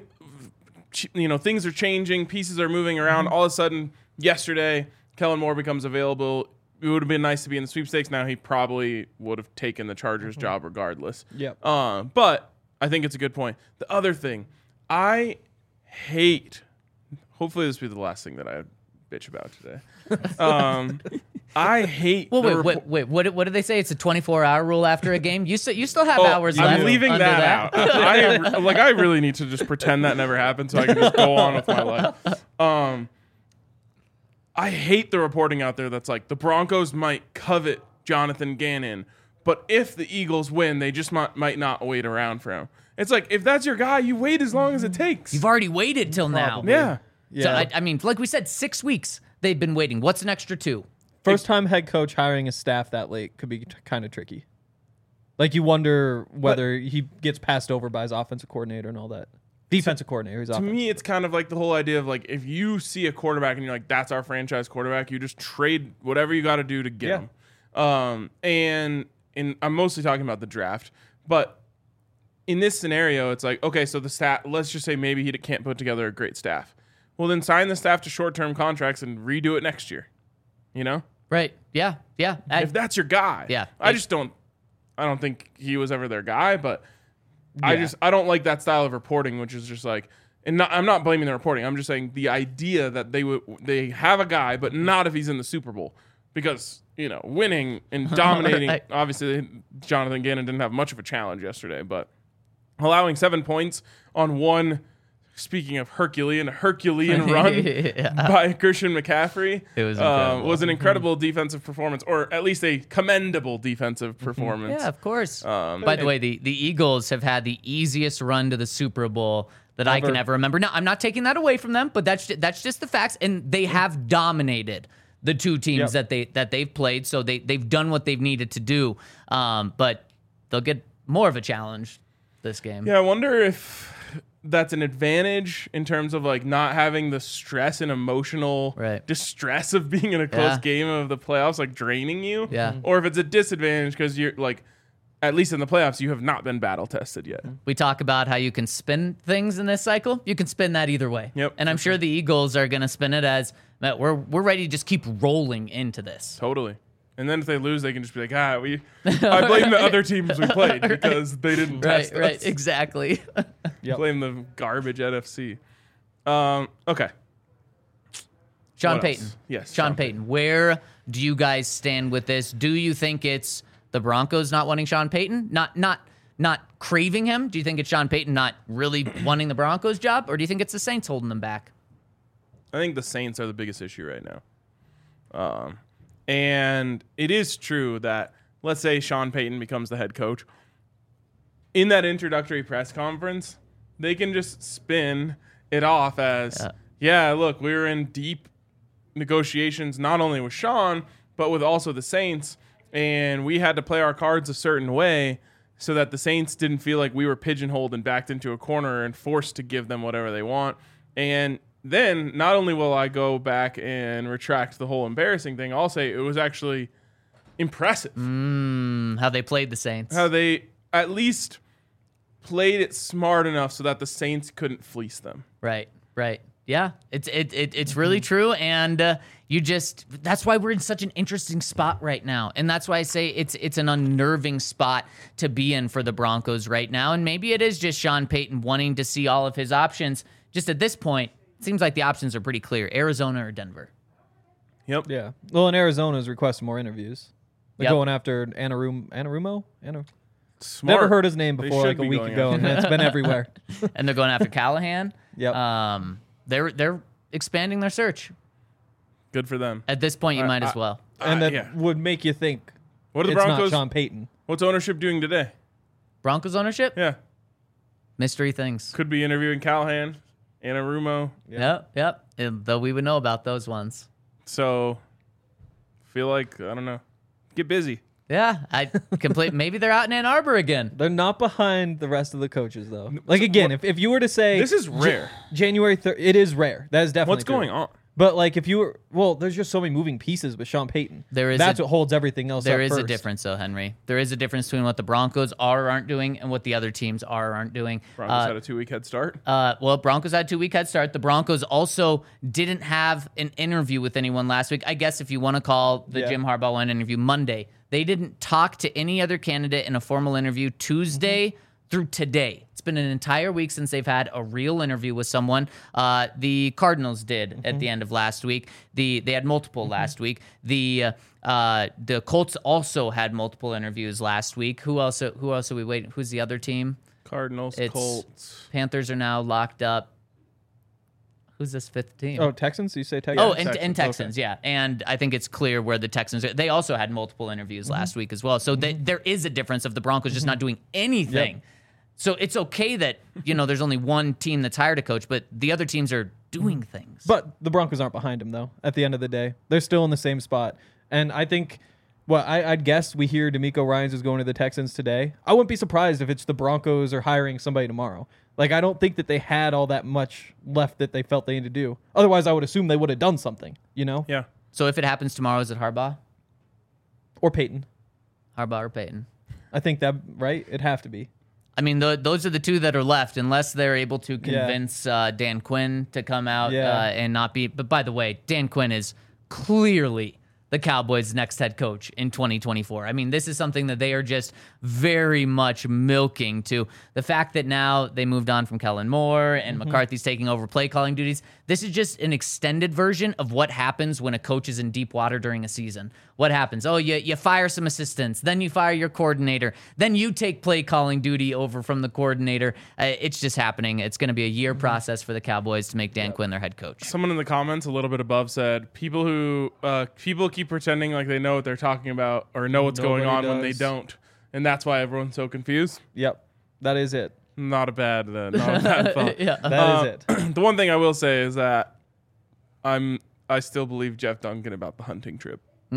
you know, things are changing, pieces are moving around. All of a sudden, yesterday, Kellen Moore becomes available. It would have been nice to be in the sweepstakes. Now he probably would have taken the Chargers job regardless.
Yep.
Uh, but I think it's a good point. The other thing, I hate. Hopefully, this will be the last thing that I bitch about today. Um, I hate.
Well,
the
wait,
repo-
wait, wait. What, what did they say? It's a twenty-four hour rule after a game. You still you still have
Oh,
hours
I'm
left.
leaving
under
that, out. I like. I really need to just pretend that never happened, so I can just go on with my life. Um, I hate the reporting out there that's like the Broncos might covet Jonathan Gannon, but if the Eagles win, they just might might not wait around for him. It's like if that's your guy, you wait as long as it takes.
You've already waited till now.
yeah.
Yeah.
So I, I mean, like we said, six weeks they've been waiting. What's an extra two?
First time head coach hiring a staff that late could be t- kind of tricky. Like you wonder whether he gets passed over by his offensive coordinator and all that. Defensive coordinator. His
To
offense.
me, it's kind of like the whole idea of like if you see a quarterback and you're like, that's our franchise quarterback, you just trade whatever you got to do to get
Yeah.
him. Um, and and I'm mostly talking about the draft, but in this scenario, it's like okay, so the stat. Let's just say maybe he can't put together a great staff. Well, then sign the staff to short-term contracts and redo it next year. You know,
Right? Yeah, yeah. I-
if that's your guy.
Yeah.
I
It-
just don't. I don't think he was ever their guy, but I
Yeah.
just I don't like that style of reporting, which is just like, and not, I'm not blaming the reporting. I'm just saying the idea that they would they have a guy, but not if he's in the Super Bowl. because, you know, winning and dominating,
Right.
obviously Jonathan Gannon didn't have much of a challenge yesterday, but allowing seven points on one, speaking of Herculean, Herculean run
Yeah.
by Christian McCaffrey
It was
uh,
incredible.
was an incredible defensive performance, or at least a commendable defensive performance.
Yeah, of course.
Um,
By the way, the, the Eagles have had the easiest run to the Super Bowl that I can
Ever.
ever remember. Now, I'm not taking that away from them, but that's ju- that's just the facts, and they have dominated the two teams
Yep.
that they that they've played. So they they've done what they've needed to do, um, but they'll get more of a challenge this game.
Yeah, I wonder if that's an advantage in terms of like not having the stress and emotional
Right.
distress of being in a close
Yeah.
game of the playoffs, like draining you.
Yeah.
Or if it's a disadvantage because you're like, at least in the playoffs, you have not been battle tested yet.
We talk about how you can spin things in this cycle. You can spin that either way.
Yep,
And I'm sure the Eagles are going to spin it as, "Matt, we're we're ready to just keep rolling into this."
Totally. And then if they lose, they can just be like, ah, we. I blame the other teams we played because they didn't
Right,
test
right,
us.
exactly.
Yep.
Blame the garbage N F C. Um, okay.
Sean
What
Payton.
else? Yes,
Sean,
Sean
Payton. Where do you guys stand with this? Do you think it's the Broncos not wanting Sean Payton? Not not not craving him? Do you think it's Sean Payton not really wanting the Broncos job? Or do you think it's the Saints holding them back?
I think the Saints are the biggest issue right now. Um, and it is true that, let's say Sean Payton becomes the head coach. In that introductory press conference, they can just spin it off as,
Yeah.
yeah, look, we were in deep negotiations not only with Sean, but with also the Saints. And we had to play our cards a certain way so that the Saints didn't feel like we were pigeonholed and backed into a corner and forced to give them whatever they want. And then not only will I go back and retract the whole embarrassing thing, I'll say it was actually impressive
Mm, how they played the Saints.
how they at least played it smart enough so that the Saints couldn't fleece them.
Right, right. Yeah, it's it, it it's really true, and uh, you just that's why we're in such an interesting spot right now, and that's why I say it's it's an unnerving spot to be in for the Broncos right now, and maybe it is just Sean Payton wanting to see all of his options. Just at this point, it seems like the options are pretty clear: Arizona or Denver.
Yep.
Yeah. Well, in Arizona's requesting more interviews. They're
Yep.
going after Anarum, Anarumo? Ana-
Smart.
Never heard his name
They
before,
should
like a
be
week
going
ago,
after
and it's been everywhere.
And they're going after Callahan.
Yep.
Um, they're they're expanding their search.
Good for them.
At this point, you
Uh,
might as
uh,
well.
and
Uh,
that
yeah.
would make you think
What are the
it's
Broncos?
not Sean Payton.
What's ownership doing today?
Broncos ownership,
Yeah.
mystery things.
Could be interviewing Callahan, Anarumo.
Yep, yep. And though we would know about those ones.
So feel like, I don't know. Get busy.
Yeah, I complete. Maybe they're out in Ann Arbor again.
They're not behind the rest of the coaches, though. Like, again, if, if you were to say...
This is rare.
January third, it is rare. That is definitely
What's going
true.
on?
But, like, if you were... Well, there's just so many moving pieces with Sean Payton.
There is
That's
a-
what holds everything else
There
up
is a
first.
difference, though, Henry. There is a difference between what the Broncos are or aren't doing and what the other teams are or aren't doing.
Broncos
Uh,
had a two-week head start.
Uh, well, Broncos had two week head start. The Broncos also didn't have an interview with anyone last week. I guess if you want to call the
Yeah.
Jim Harbaugh one interview Monday, they didn't talk to any other candidate in a formal interview Tuesday through today. It's been an entire week since they've had a real interview with someone. Uh, the Cardinals did at the end of last week. The they had multiple last week. The uh, uh, the Colts also had multiple interviews last week. Who else? Who else are we waiting? Who's the other team?
Cardinals,
it's-
Colts.
Panthers are now locked up. Who's this fifth team?
Oh, Texans? You say Texans?
Oh, and,
Texans.
and Texans, yeah. And I think it's clear where the Texans are. They also had multiple interviews last week as well. So they, there is a difference of the Broncos just not doing anything.
Yep.
So it's okay that, you know, there's only one team that's hired a coach, but the other teams are doing things.
But the Broncos aren't behind him, though, at the end of the day. They're still in the same spot. And I think, well, I, I'd guess we hear D'Amico Ryans is going to the Texans today. I wouldn't be surprised if it's the Broncos are hiring somebody tomorrow. Like, I don't think that they had all that much left that they felt they needed to do. Otherwise, I would assume they would have done something, you know?
Yeah.
So if it happens tomorrow, is it Harbaugh?
Or Peyton.
Harbaugh or Peyton?
I think that, right? It'd have to be.
I mean, the, those are the two that are left, unless they're able to convince uh, Dan Quinn to come out
Yeah.
uh, and not be. But by the way, Dan Quinn is clearly the Cowboys' next head coach in twenty twenty-four. I mean, this is something that they are just very much milking to. The fact that now they moved on from Kellen Moore and mm-hmm. McCarthy's taking over play calling duties, this is just an extended version of what happens when a coach is in deep water during a season. What happens? Oh, you, you fire some assistants, then you fire your coordinator, then you take play calling duty over from the coordinator. Uh, it's just happening. It's going to be a year mm-hmm. process for the Cowboys to make Dan yeah. Quinn their head coach.
Someone in the comments a little bit above said, people who, uh, people keep pretending like they know what they're talking about or know what's
Nobody
going on
does.
when they don't. And that's why everyone's so confused.
Yep. That is it.
Not a bad, uh, not a bad thought.
yeah.
That
uh,
is it.
The one thing I will say is that I'm, I still believe Jeff Duncan about the hunting trip.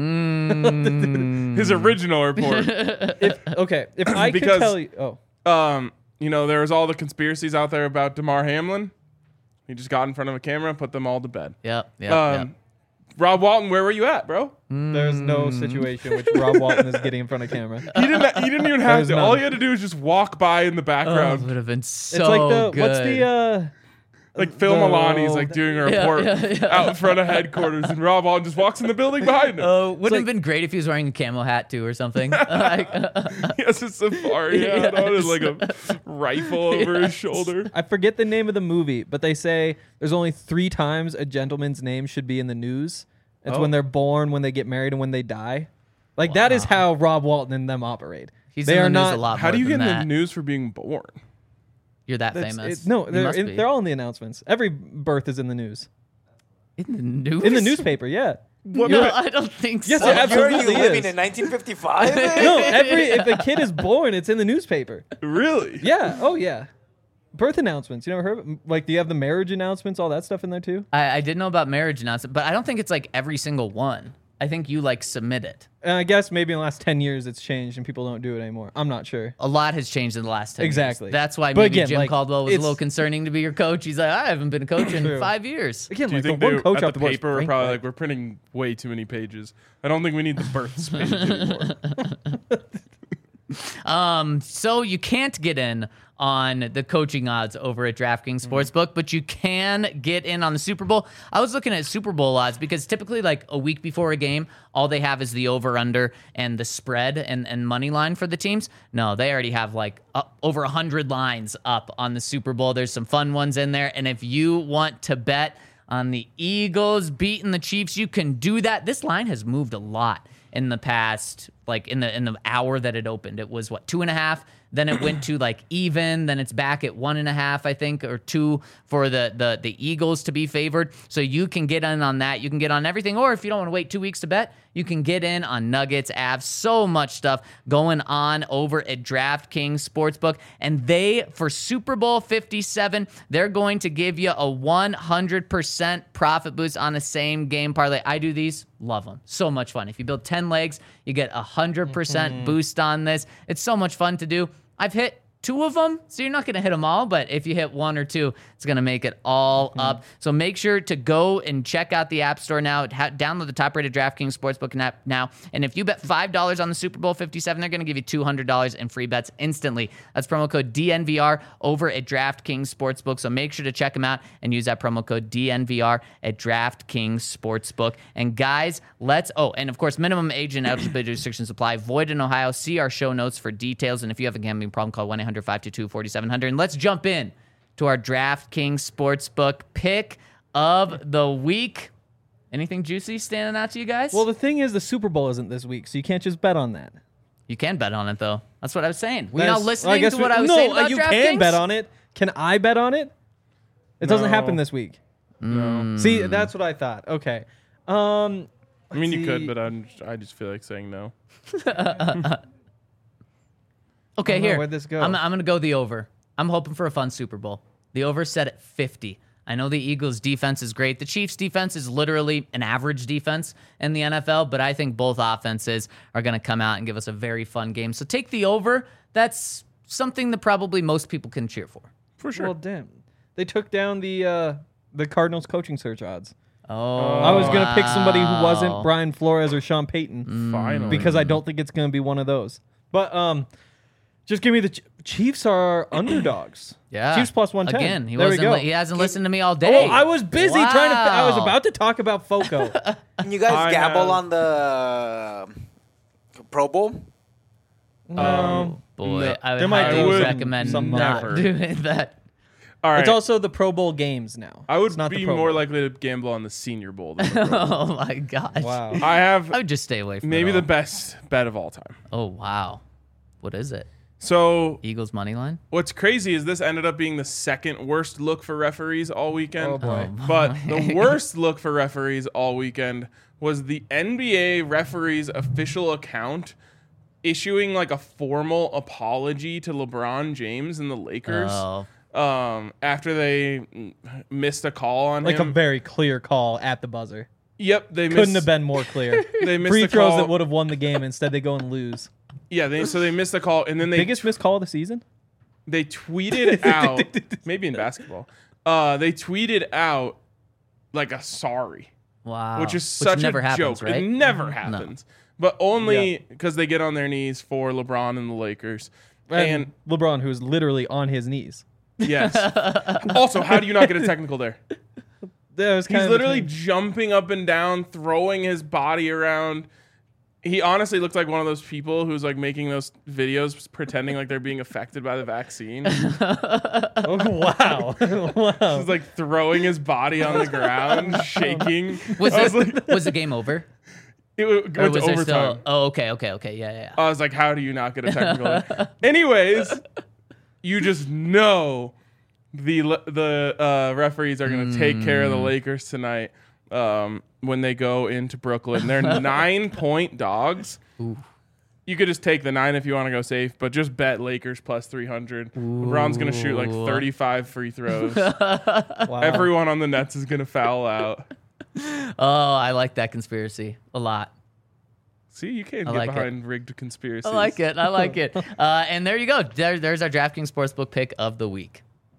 Mm.
His original report.
If, okay. If I could
Because-
tell you. Oh.
Um, you know, there was all the conspiracies out there about DeMar Hamlin. He just got in front of a camera and put them all to bed.
Yep. Yep.
um,
yep.
Rob Walton, where were you at, bro?
There's no situation which Rob Walton is getting in front of camera.
He didn't. He didn't even have
There's
to.
none.
All he had to do was just walk by in the
Oh,
background,
it would have been so
It's like the
good.
what's the uh
like Phil
the-
Milani's like doing a
Yeah,
report
yeah, yeah.
out in front of headquarters, and Rob Walton just walks in the building behind him.
Oh, wouldn't
like-
have been great if he was wearing a camo hat too or something. Like,
He has a safari hat on and like a rifle over his
Yes.
shoulder.
I forget the name of the movie, but they say there's only three times a gentleman's name should be in the news. It's
Oh.
when they're born, when they get married, and when they die. Like that is how Rob Walton and them operate.
he's
they
in
are
the news
not
a lot
How
more
do you
than
get in
that.
the news for being born?
You're that
That's-
famous.
it- no,
You
they're
must
in,
be.
they're all in the announcements. Every birth is in the news.
in the news.
In the newspaper, yeah.
What
No,
ma-
I don't think
Yes,
so.
it
What year are you
absolutely
living
is.
in nineteen fifty-five?
No, every if a kid is born, it's in the newspaper.
Really?
Yeah. Oh yeah. Birth announcements. You never heard? Of, like, do you have the marriage announcements? All that stuff in there too.
I, I did know about marriage announcement, but I don't think it's like every single one. I think you like submit it.
And I guess maybe in the last ten years it's changed and people don't do it anymore. I'm not sure.
A lot has changed in the last ten
Exactly.
years. That's why
But
maybe
again,
Jim
like,
Caldwell was a
it's-
little concerning to be your coach. He's like, I haven't been a coach in
True.
five years.
Again,
Do you
like
think
the one
they,
coach
at
off
the
the board is
paper are
Frank
probably
Reich.
like, we're printing way too many pages. I don't think we need the births page anymore.
Um, so you can't get in on the coaching odds over at DraftKings Sportsbook, but you can get in on the Super Bowl. I was looking at Super Bowl odds because typically like a week before a game, all they have is the over-under and the spread and, and money line for the teams. No, they already have like up, over one hundred lines up on the Super Bowl. There's some fun ones in there. And if you want to bet on the Eagles beating the Chiefs, you can do that. This line has moved a lot in the past, like in the in the hour that it opened. It was what, two and a half, then it went to like even, then it's back at one and a half, I think, or two for the the the Eagles to be favored. So you can get in on that. You can get on everything, or if you don't want to wait two weeks to bet, you can get in on Nuggets, Avs, so much stuff going on over at DraftKings Sportsbook. And they, for Super Bowl fifty-seven, they're going to give you a one hundred percent profit boost on the same game parlay. I do these, love them. So much fun. If you build ten legs, you get a one hundred percent
Mm-hmm.
boost on this. It's so much fun to do. I've hit two of them, so you're not going to hit them all, but if you hit one or two, it's going to make it all
Mm-hmm.
up. So make sure to go and check out the App Store now. Ha- download the top-rated DraftKings Sportsbook app now. And if you bet five dollars on the Super Bowl fifty-seven, they're going to give you two hundred dollars in free bets instantly. That's promo code D N V R over at DraftKings Sportsbook. So make sure to check them out and use that promo code D N V R at DraftKings Sportsbook. And guys, let's, oh, and of course, minimum age and eligibility restrictions apply. Void in Ohio. See our show notes for details. And if you have a gambling problem, call one eight hundred five two two four seven zero zero. And let's jump in to our DraftKings Sportsbook pick of the week. Anything juicy standing out to you guys?
Well, the thing is, the Super Bowl isn't this week, so you can't just bet on that.
you can bet on it, though. That's what I was saying. Were you
That's-
not
well, I
listening
guess
to
we-
what I was
no,
saying
uh,
about
you
DraftKings?
can bet on it. Can I bet on it? It doesn't
No.
happen this week.
No.
See, that's what I thought. Okay. Um,
I mean, you
see.
could, but I'm, I just feel like saying no.
Okay,
I don't know,
here.
where'd this go?
I'm, I'm going to go the over. I'm hoping for a fun Super Bowl. The over set at fifty. I know the Eagles' defense is great. The Chiefs' defense is literally an average defense in the N F L, but I think both offenses are going to come out and give us a very fun game. So take the over. That's something that probably most people can cheer for.
For sure.
well, damn. They took down the uh, the Cardinals coaching search odds.
Oh,
I was gonna pick somebody who
wow.
wasn't Brian Flores or Sean Payton
Mm.
Finally.
because I don't think it's gonna be one of those. But um, Just give me the Ch- Chiefs are underdogs.
Yeah.
Chiefs plus one ten.
Again, he
there we
wasn't.
go.
Li- he hasn't listened to me all day.
Oh, I was busy trying to. I was
Wow.
about to talk about Foco.
Can you guys
I
gamble
have-
on the uh, Pro Bowl?
um,
Boy,
No.
I would
There might
highly
be some-
recommend
some
not
never.
doing that.
All right.
It's also the Pro Bowl games now.
I would
It's not the
be
Pro
more
Bowl.
likely to gamble on the Senior Bowl than the Pro Bowl.
Oh my gosh.
Wow.
I have
I would just stay away from
maybe
it
the
all.
best bet of all time.
Oh wow. What is it?
So
Eagles money line?
what's crazy is this ended up being the second worst look for referees all weekend.
Oh, boy.
But the worst look for referees all weekend was the N B A referees official account issuing like a formal apology to LeBron James and the Lakers
Oh.
um, after they mm, missed a call on
Like a
him.
very clear call at the buzzer.
Yep, they
Couldn't
missed,
have been more clear.
They missed
Free
the
throws
call.
that would have won the game. Instead, they go and lose.
Yeah, they, so they missed the call, and then they
Biggest missed call of the season?
they tweeted out, maybe in basketball, uh, they tweeted out like a sorry,
Wow.
which is such
never
a
happens,
joke.
right?
It never happens, but only because they get on their knees for LeBron and the Lakers.
And,
And
LeBron, who is literally on his knees.
yes, also, how do you not get a technical there?
That was kind
He's
of
literally
the thing.
jumping up and down, throwing his body around. He honestly looked like one of those people who's like making those videos pretending like they're being affected by the vaccine.
Oh, wow. wow.
He's like throwing his body on the ground, shaking.
was
I was
it
like,
was the game over?
it w- went
Or
to
was there
overtime.
still Oh, okay, okay, okay. Yeah, yeah. yeah.
I was like, how do you not get a technical? there? Anyways, you just know the le- the uh, referees are going to take care of the Lakers tonight um, when they go into Brooklyn. They're nine point dogs. You could just take the nine if you want to go safe, but just bet Lakers plus three hundred. LeBron's going to shoot like
Ooh.
thirty-five free throws.
Wow.
Everyone on the Nets is going to foul out.
Oh, I like that conspiracy a lot.
See, you can't
I
get
like it.
behind rigged conspiracies.
I like it. I like it. Uh, and there you go. There, there's our DraftKings Sportsbook pick of the week.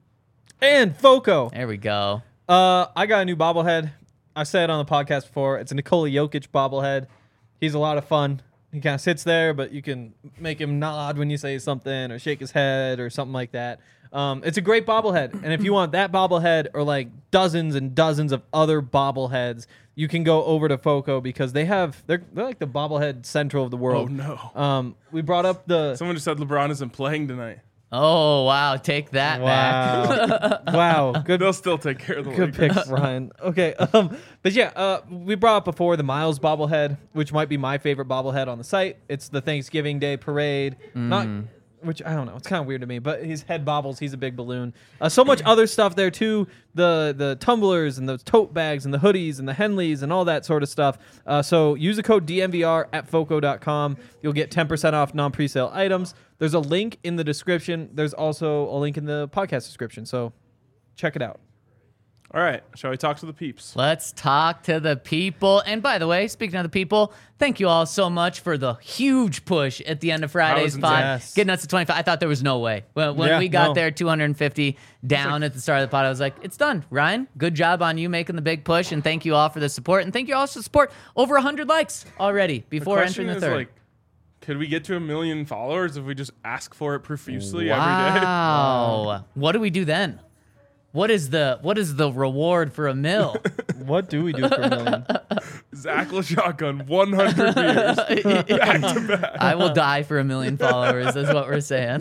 And Foco.
There we go.
Uh, I got a new bobblehead. I said it on the podcast before. It's a Nikola Jokic bobblehead. He's a lot of fun. He kind of sits there, but you can make him nod when you say something or shake his head or something like that. Um, it's a great bobblehead. And if you want that bobblehead or like dozens and dozens of other bobbleheads, you can go over to Foco because they have, they're, they're like the bobblehead central of the
Oh,
world.
no.
Um, we brought up the,
Someone just said LeBron isn't playing tonight.
Oh, wow. Take that back.
wow. wow. Good
They'll still take care of the
Good
Lakers.
pick, Ryan. Okay, um, but yeah, uh, we brought up before the Miles bobblehead, which might be my favorite bobblehead on the site. It's the Thanksgiving Day parade, not which I don't know. It's kind of weird to me, but his head bobbles. He's a big balloon. Uh, so much other stuff there too. The the tumblers and the tote bags and the hoodies and the Henleys and all that sort of stuff. Uh, so use the code D M V R at foco dot com. You'll get ten percent off non-presale items. There's a link in the description. There's also a link in the podcast description. So check it out.
All right, shall we talk to the peeps?
Let's talk to the people. And by the way, speaking of the people, thank you all so much for the huge push at the end of Friday's
was
pod.
yes.
Getting us to twenty-five. I thought there was no way. When, when
Yeah,
we got
no.
there, two hundred fifty down at the start of the pod, I was like, it's done. Ryan, good job on you making the big push. And thank you all for the support. And thank you all for the support. Over one hundred likes already before
Question
entering the
is,
third.
like, could we get to a million followers if we just ask for it profusely every day?
Wow. What do we do then? What is the what is the reward for a mill?
What do we do for a million?
Zach LaShotgun, one hundred beers back to back.
I will die for a million followers, is what we're saying.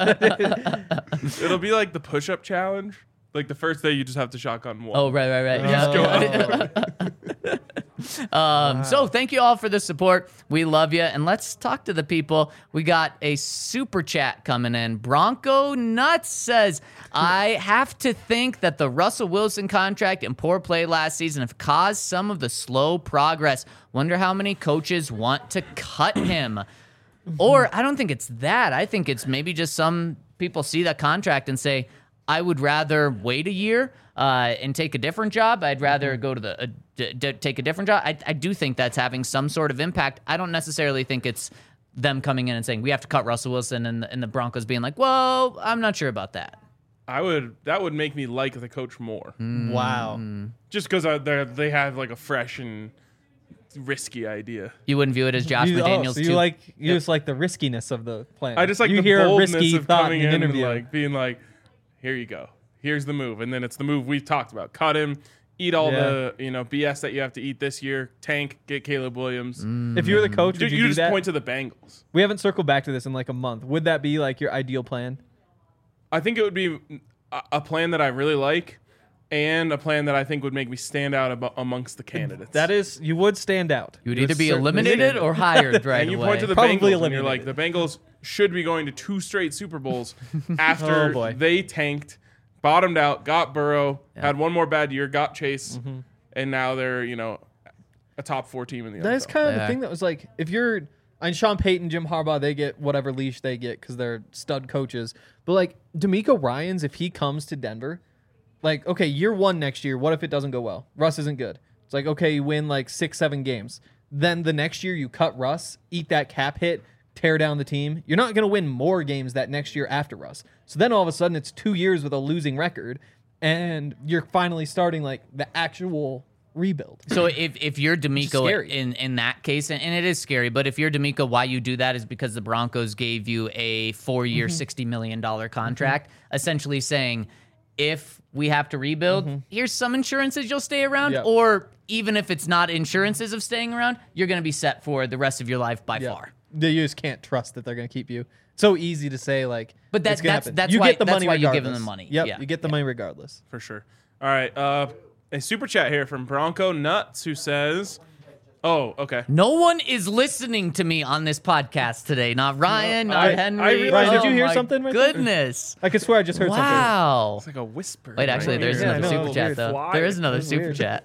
It'll be like the push-up challenge. Like the first day, you just have to shotgun one.
Oh, right, right, right.
Just go
Yeah.
up.
Um, So thank you all for the support. We love you. And let's talk to the people. We got a super chat coming in. Bronco Nuts says, I have to think that the Russell Wilson contract and poor play last season have caused some of the slow progress. Wonder how many coaches want to cut him. Or I don't think it's that. I think it's maybe just some people see that contract and say, I would rather wait a year uh, and take a different job. I'd rather go to the uh, d- d- take a different job. I, I do think that's having some sort of impact. I don't necessarily think it's them coming in and saying we have to cut Russell Wilson and the, and the Broncos being like, well, I'm not sure about that.
I would. That would make me like the coach more,
Wow.
just because they they have like a fresh and risky idea.
You wouldn't view it as Josh
You, oh,
McDaniels
so you
too.
like you
Yep.
just like the riskiness of the plan.
I just like
you
the
hear a
boldness
risky
of
thought
coming
in an
in and
interview.
like being like, here you go. Here's the move. And then it's the move we've talked about. Cut him, eat all
Yeah.
the, you know, B S that you have to eat this year. Tank, get Caleb Williams.
If you were the coach,
Dude,
would you,
you
do
just
that?
point to the Bengals.
We haven't circled back to this in like a month. Would that be like your ideal plan?
I think it would be a, a plan that I really like and a plan that I think would make me stand out abo- amongst the candidates.
That is, you would stand out.
You would
You
either be
certainly
eliminated
stand
or
out.
hired right
and you
away.
point to the
Probably
Bengals and you're like, the
eliminated.
Bengals should be going to two straight Super Bowls
Oh,
after
boy.
they tanked, bottomed out, got Burrow, had one more bad year, got Chase,
Mm-hmm.
and now they're, you know, a top four team in the N F L.
That is kind of
Yeah.
the thing that was like, if you're, I mean, Sean Payton, Jim Harbaugh, they get whatever leash they get because they're stud coaches. But like D'Amico Ryans, if he comes to Denver, like, okay, year one next year, what if it doesn't go well? Russ isn't good. It's like, okay, you win like six, seven games. Then the next year you cut Russ, eat that cap hit, tear down the team. You're not going to win more games that next year after Russ. So then all of a sudden it's two years with a losing record, and you're finally starting like the actual rebuild.
So if, if you're D'Amico
scary.
in, in that case, and, and it is scary, but if you're D'Amico, why you do that is because the Broncos gave you a four-year,
Mm-hmm.
sixty million dollars contract, essentially saying, if we have to rebuild, here's some insurances you'll stay around,
Yep.
or even if it's not insurances of staying around, you're going to be set for the rest of your life by
Yeah.
far.
They just can't trust that they're going to keep you. So easy to say, like,
But that-
it's gonna
that's-
happen.
that's
you
why-
get the
that's
money
why you give them
regardless.
the money.
Yep,
Yeah.
you get the money regardless.
For sure. All right. Uh, a super chat here from Bronco Nuts who says, oh, okay.
No one is listening to me on this podcast today. Not Ryan,
No,
not
I-
Henry.
I realized-
Ryan, did you
Oh
hear
my
something right there?
Goodness.
I could swear I just heard something.
Wow.
It's like a whisper.
Wait, actually,
right
there's
here.
Yeah, I
another
know,
super
it's
chat,
weird.
though.
Fly.
There is another
That's
super
weird.
chat.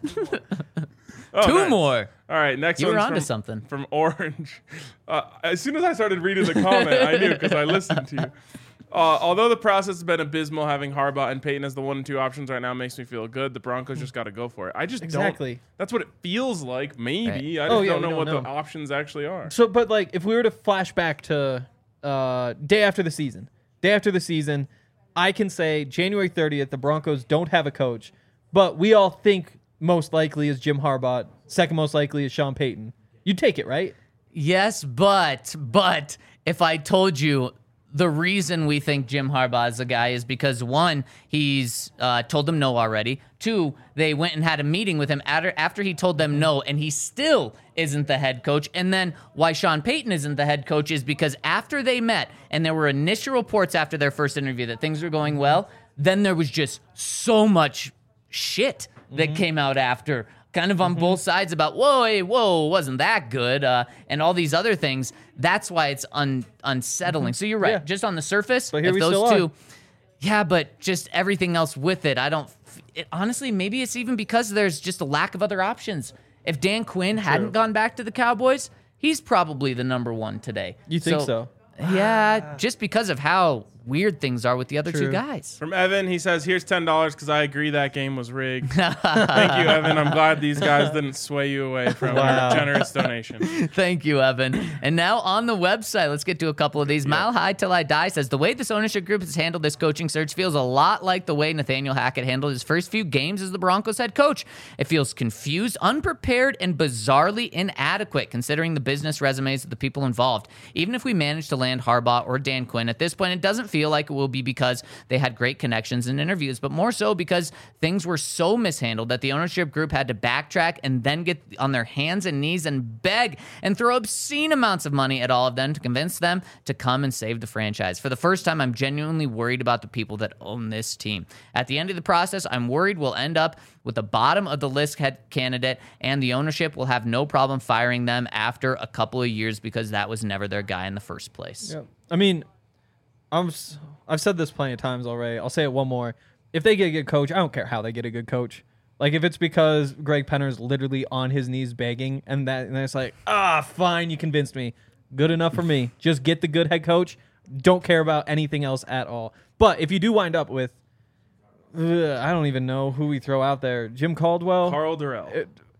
Oh,
Two
nice.
more.
All right, next
You were
one's
onto
from,
something.
from Orange. Uh, as soon as I started reading the comment, I knew because I listened to you. Uh, although the process has been abysmal, having Harbaugh and Peyton as the one and two options right now makes me feel good. The Broncos just got to go for it. I just
Exactly.
don't. That's what it feels like. Maybe I just
Oh, yeah,
don't
we
know
don't
what
know.
the options actually are.
So, but like, if we were to flash back to uh, day after the season, day after the season, I can say January thirtieth, the Broncos don't have a coach, but we all think most likely is Jim Harbaugh. Second most likely is Sean Payton. You'd take it, right?
Yes, but but if I told you the reason we think Jim Harbaugh is the guy is because one, he's uh, told them no already. Two, they went and had a meeting with him after after he told them no, and he still isn't the head coach. And then why Sean Payton isn't the head coach is because after they met and there were initial reports after their first interview that things were going well, then there was just so much shit that came out after. Kind of on both sides about, whoa, hey, whoa, wasn't that good? Uh, and all these other things. That's why it's un- unsettling. So you're right.
Yeah.
Just on the surface,
But here
if
we
those
still
two,
are.
yeah, but just everything else with it, I don't. f- It, honestly, maybe it's even because there's just a lack of other options. If Dan Quinn hadn't gone back to the Cowboys, he's probably the number one today.
You think so?
Yeah, just because of how weird things are with the other two
True.
guys.
From Evan, he says, "Here's ten dollars because I agree that game was rigged." Thank you, Evan. I'm glad these guys didn't sway you away from
Wow.
our generous donation.
Thank you, Evan. And now on the website, let's get to a couple of these. Mile High Till I Die says, the way this ownership group has handled this coaching search feels a lot like the way Nathaniel Hackett handled his first few games as the Broncos head coach. It feels confused, unprepared, and bizarrely inadequate considering the business resumes of the people involved. Even if we manage to land Harbaugh or Dan Quinn, at this point, it doesn't feel like it will be because they had great connections and interviews, but more so because things were so mishandled that the ownership group had to backtrack and then get on their hands and knees and beg and throw obscene amounts of money at all of them to convince them to come and save the franchise. For the first time, I'm genuinely worried about the people that own this team. At the end of the process, I'm worried we'll end up with the bottom of the list head candidate, and the ownership will have no problem firing them after a couple of years because that was never their guy in the first place.
Yep. I mean, I'm, s- I've said this plenty of times already. I'll say it one more. If they get a good coach, I don't care how they get a good coach. Like, if it's because Greg Penner's literally on his knees begging, and that and it's like, ah, fine, you convinced me. Good enough for me. Just get the good head coach. Don't care about anything else at all. But if you do wind up with, ugh, I don't even know who we throw out there. Jim Caldwell.
Carl Durrell.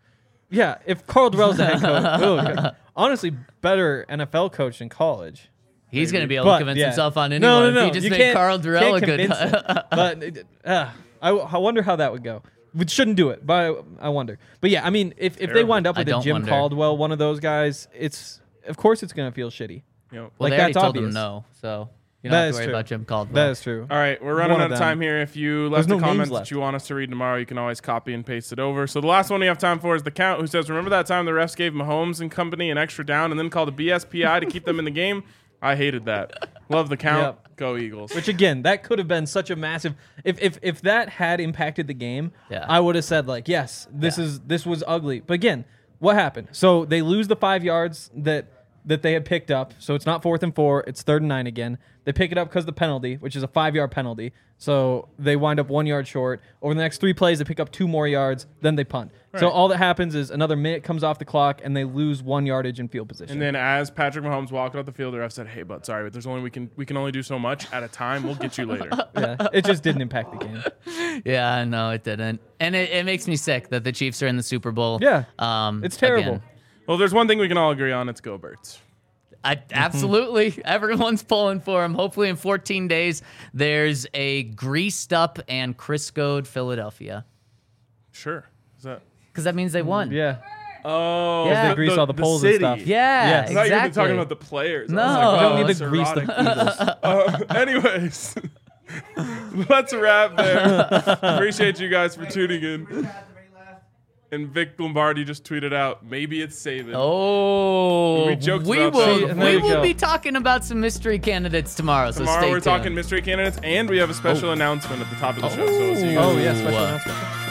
Yeah, if Carl Durrell's the head coach, ugh, honestly, better N F L coach in college.
He's going to be able
But,
to convince
yeah.
himself on anyone.
No, no, no.
If he just
You
made
can't-
Carl Durrell
can't
a good.
convince him. But uh, I, I wonder how that would go. We shouldn't do it, but I wonder. But yeah, I mean, if, if they
Terrible.
wind up
I
with a
don't
Jim
wonder.
Caldwell, one of those guys, it's of course it's gonna feel shitty.
You know.
Well,
Like,
they already
that's
told
obvious.
him no, so you don't
That
have
is
to worry
true.
about Jim Caldwell.
That is true.
All right, we're running
One
out
of
of
them.
time here. If you
There's
left
no
a
names
comment
left.
that you want us to read tomorrow, you can always copy and paste it over. So the last one we have time for is the Count, who says, "Remember that time the refs gave Mahomes and company an extra down and then called a B S P I to keep them in the game? I hated that. Love the Count.
Yep.
Go Eagles."
Which again, that could have been such a massive. If if if that had impacted the game,
Yeah.
I would have said like, yes, this
Yeah.
is this was ugly. But again, what happened? So they lose the five yards that that they had picked up. So it's not fourth and four. It's third and nine again. They pick it up because of the penalty, which is a five yard penalty. So they wind up one yard short. Over the next three plays, they pick up two more yards. Then they punt. So
Right.
all that happens is another minute comes off the clock, and they lose one yardage in field position.
And then as Patrick Mahomes walked out the field, the ref said, "Hey, bud, sorry, but there's only we can we can only do so much at a time. We'll get you later."
yeah, it just didn't impact the game.
Yeah, no, it didn't, and it, it makes me sick that the Chiefs are in the Super Bowl.
Yeah.
um,
It's terrible.
again.
Well, there's one thing we can all agree on. It's go Birds.
I, absolutely. Everyone's pulling for him. Hopefully, in fourteen days, there's a greased up and Criscoed Philadelphia.
Sure. Is that?
Because that means they won.
Yeah.
Oh,
Yeah.
They grease all the poles and
city.
stuff.
Yeah,
Yes.
I thought you were
exactly.
talking about the players. I
No.
was like,
You
wow,
don't
need
that's
to grease the
erotic. uh, anyways, let's wrap there. Appreciate you guys for tuning in. And Vic Lombardi just tweeted out, "Maybe it's Saban."
Oh,
We joked
we
about
will.
that
See, and
we
there you
will
go.
be talking about some mystery candidates tomorrow. So
Tomorrow
stay
we're
tuned.
talking mystery candidates, and we have a special announcement at the top of the show. So we'll see you guys.
Oh yeah, special
Ooh.
announcement.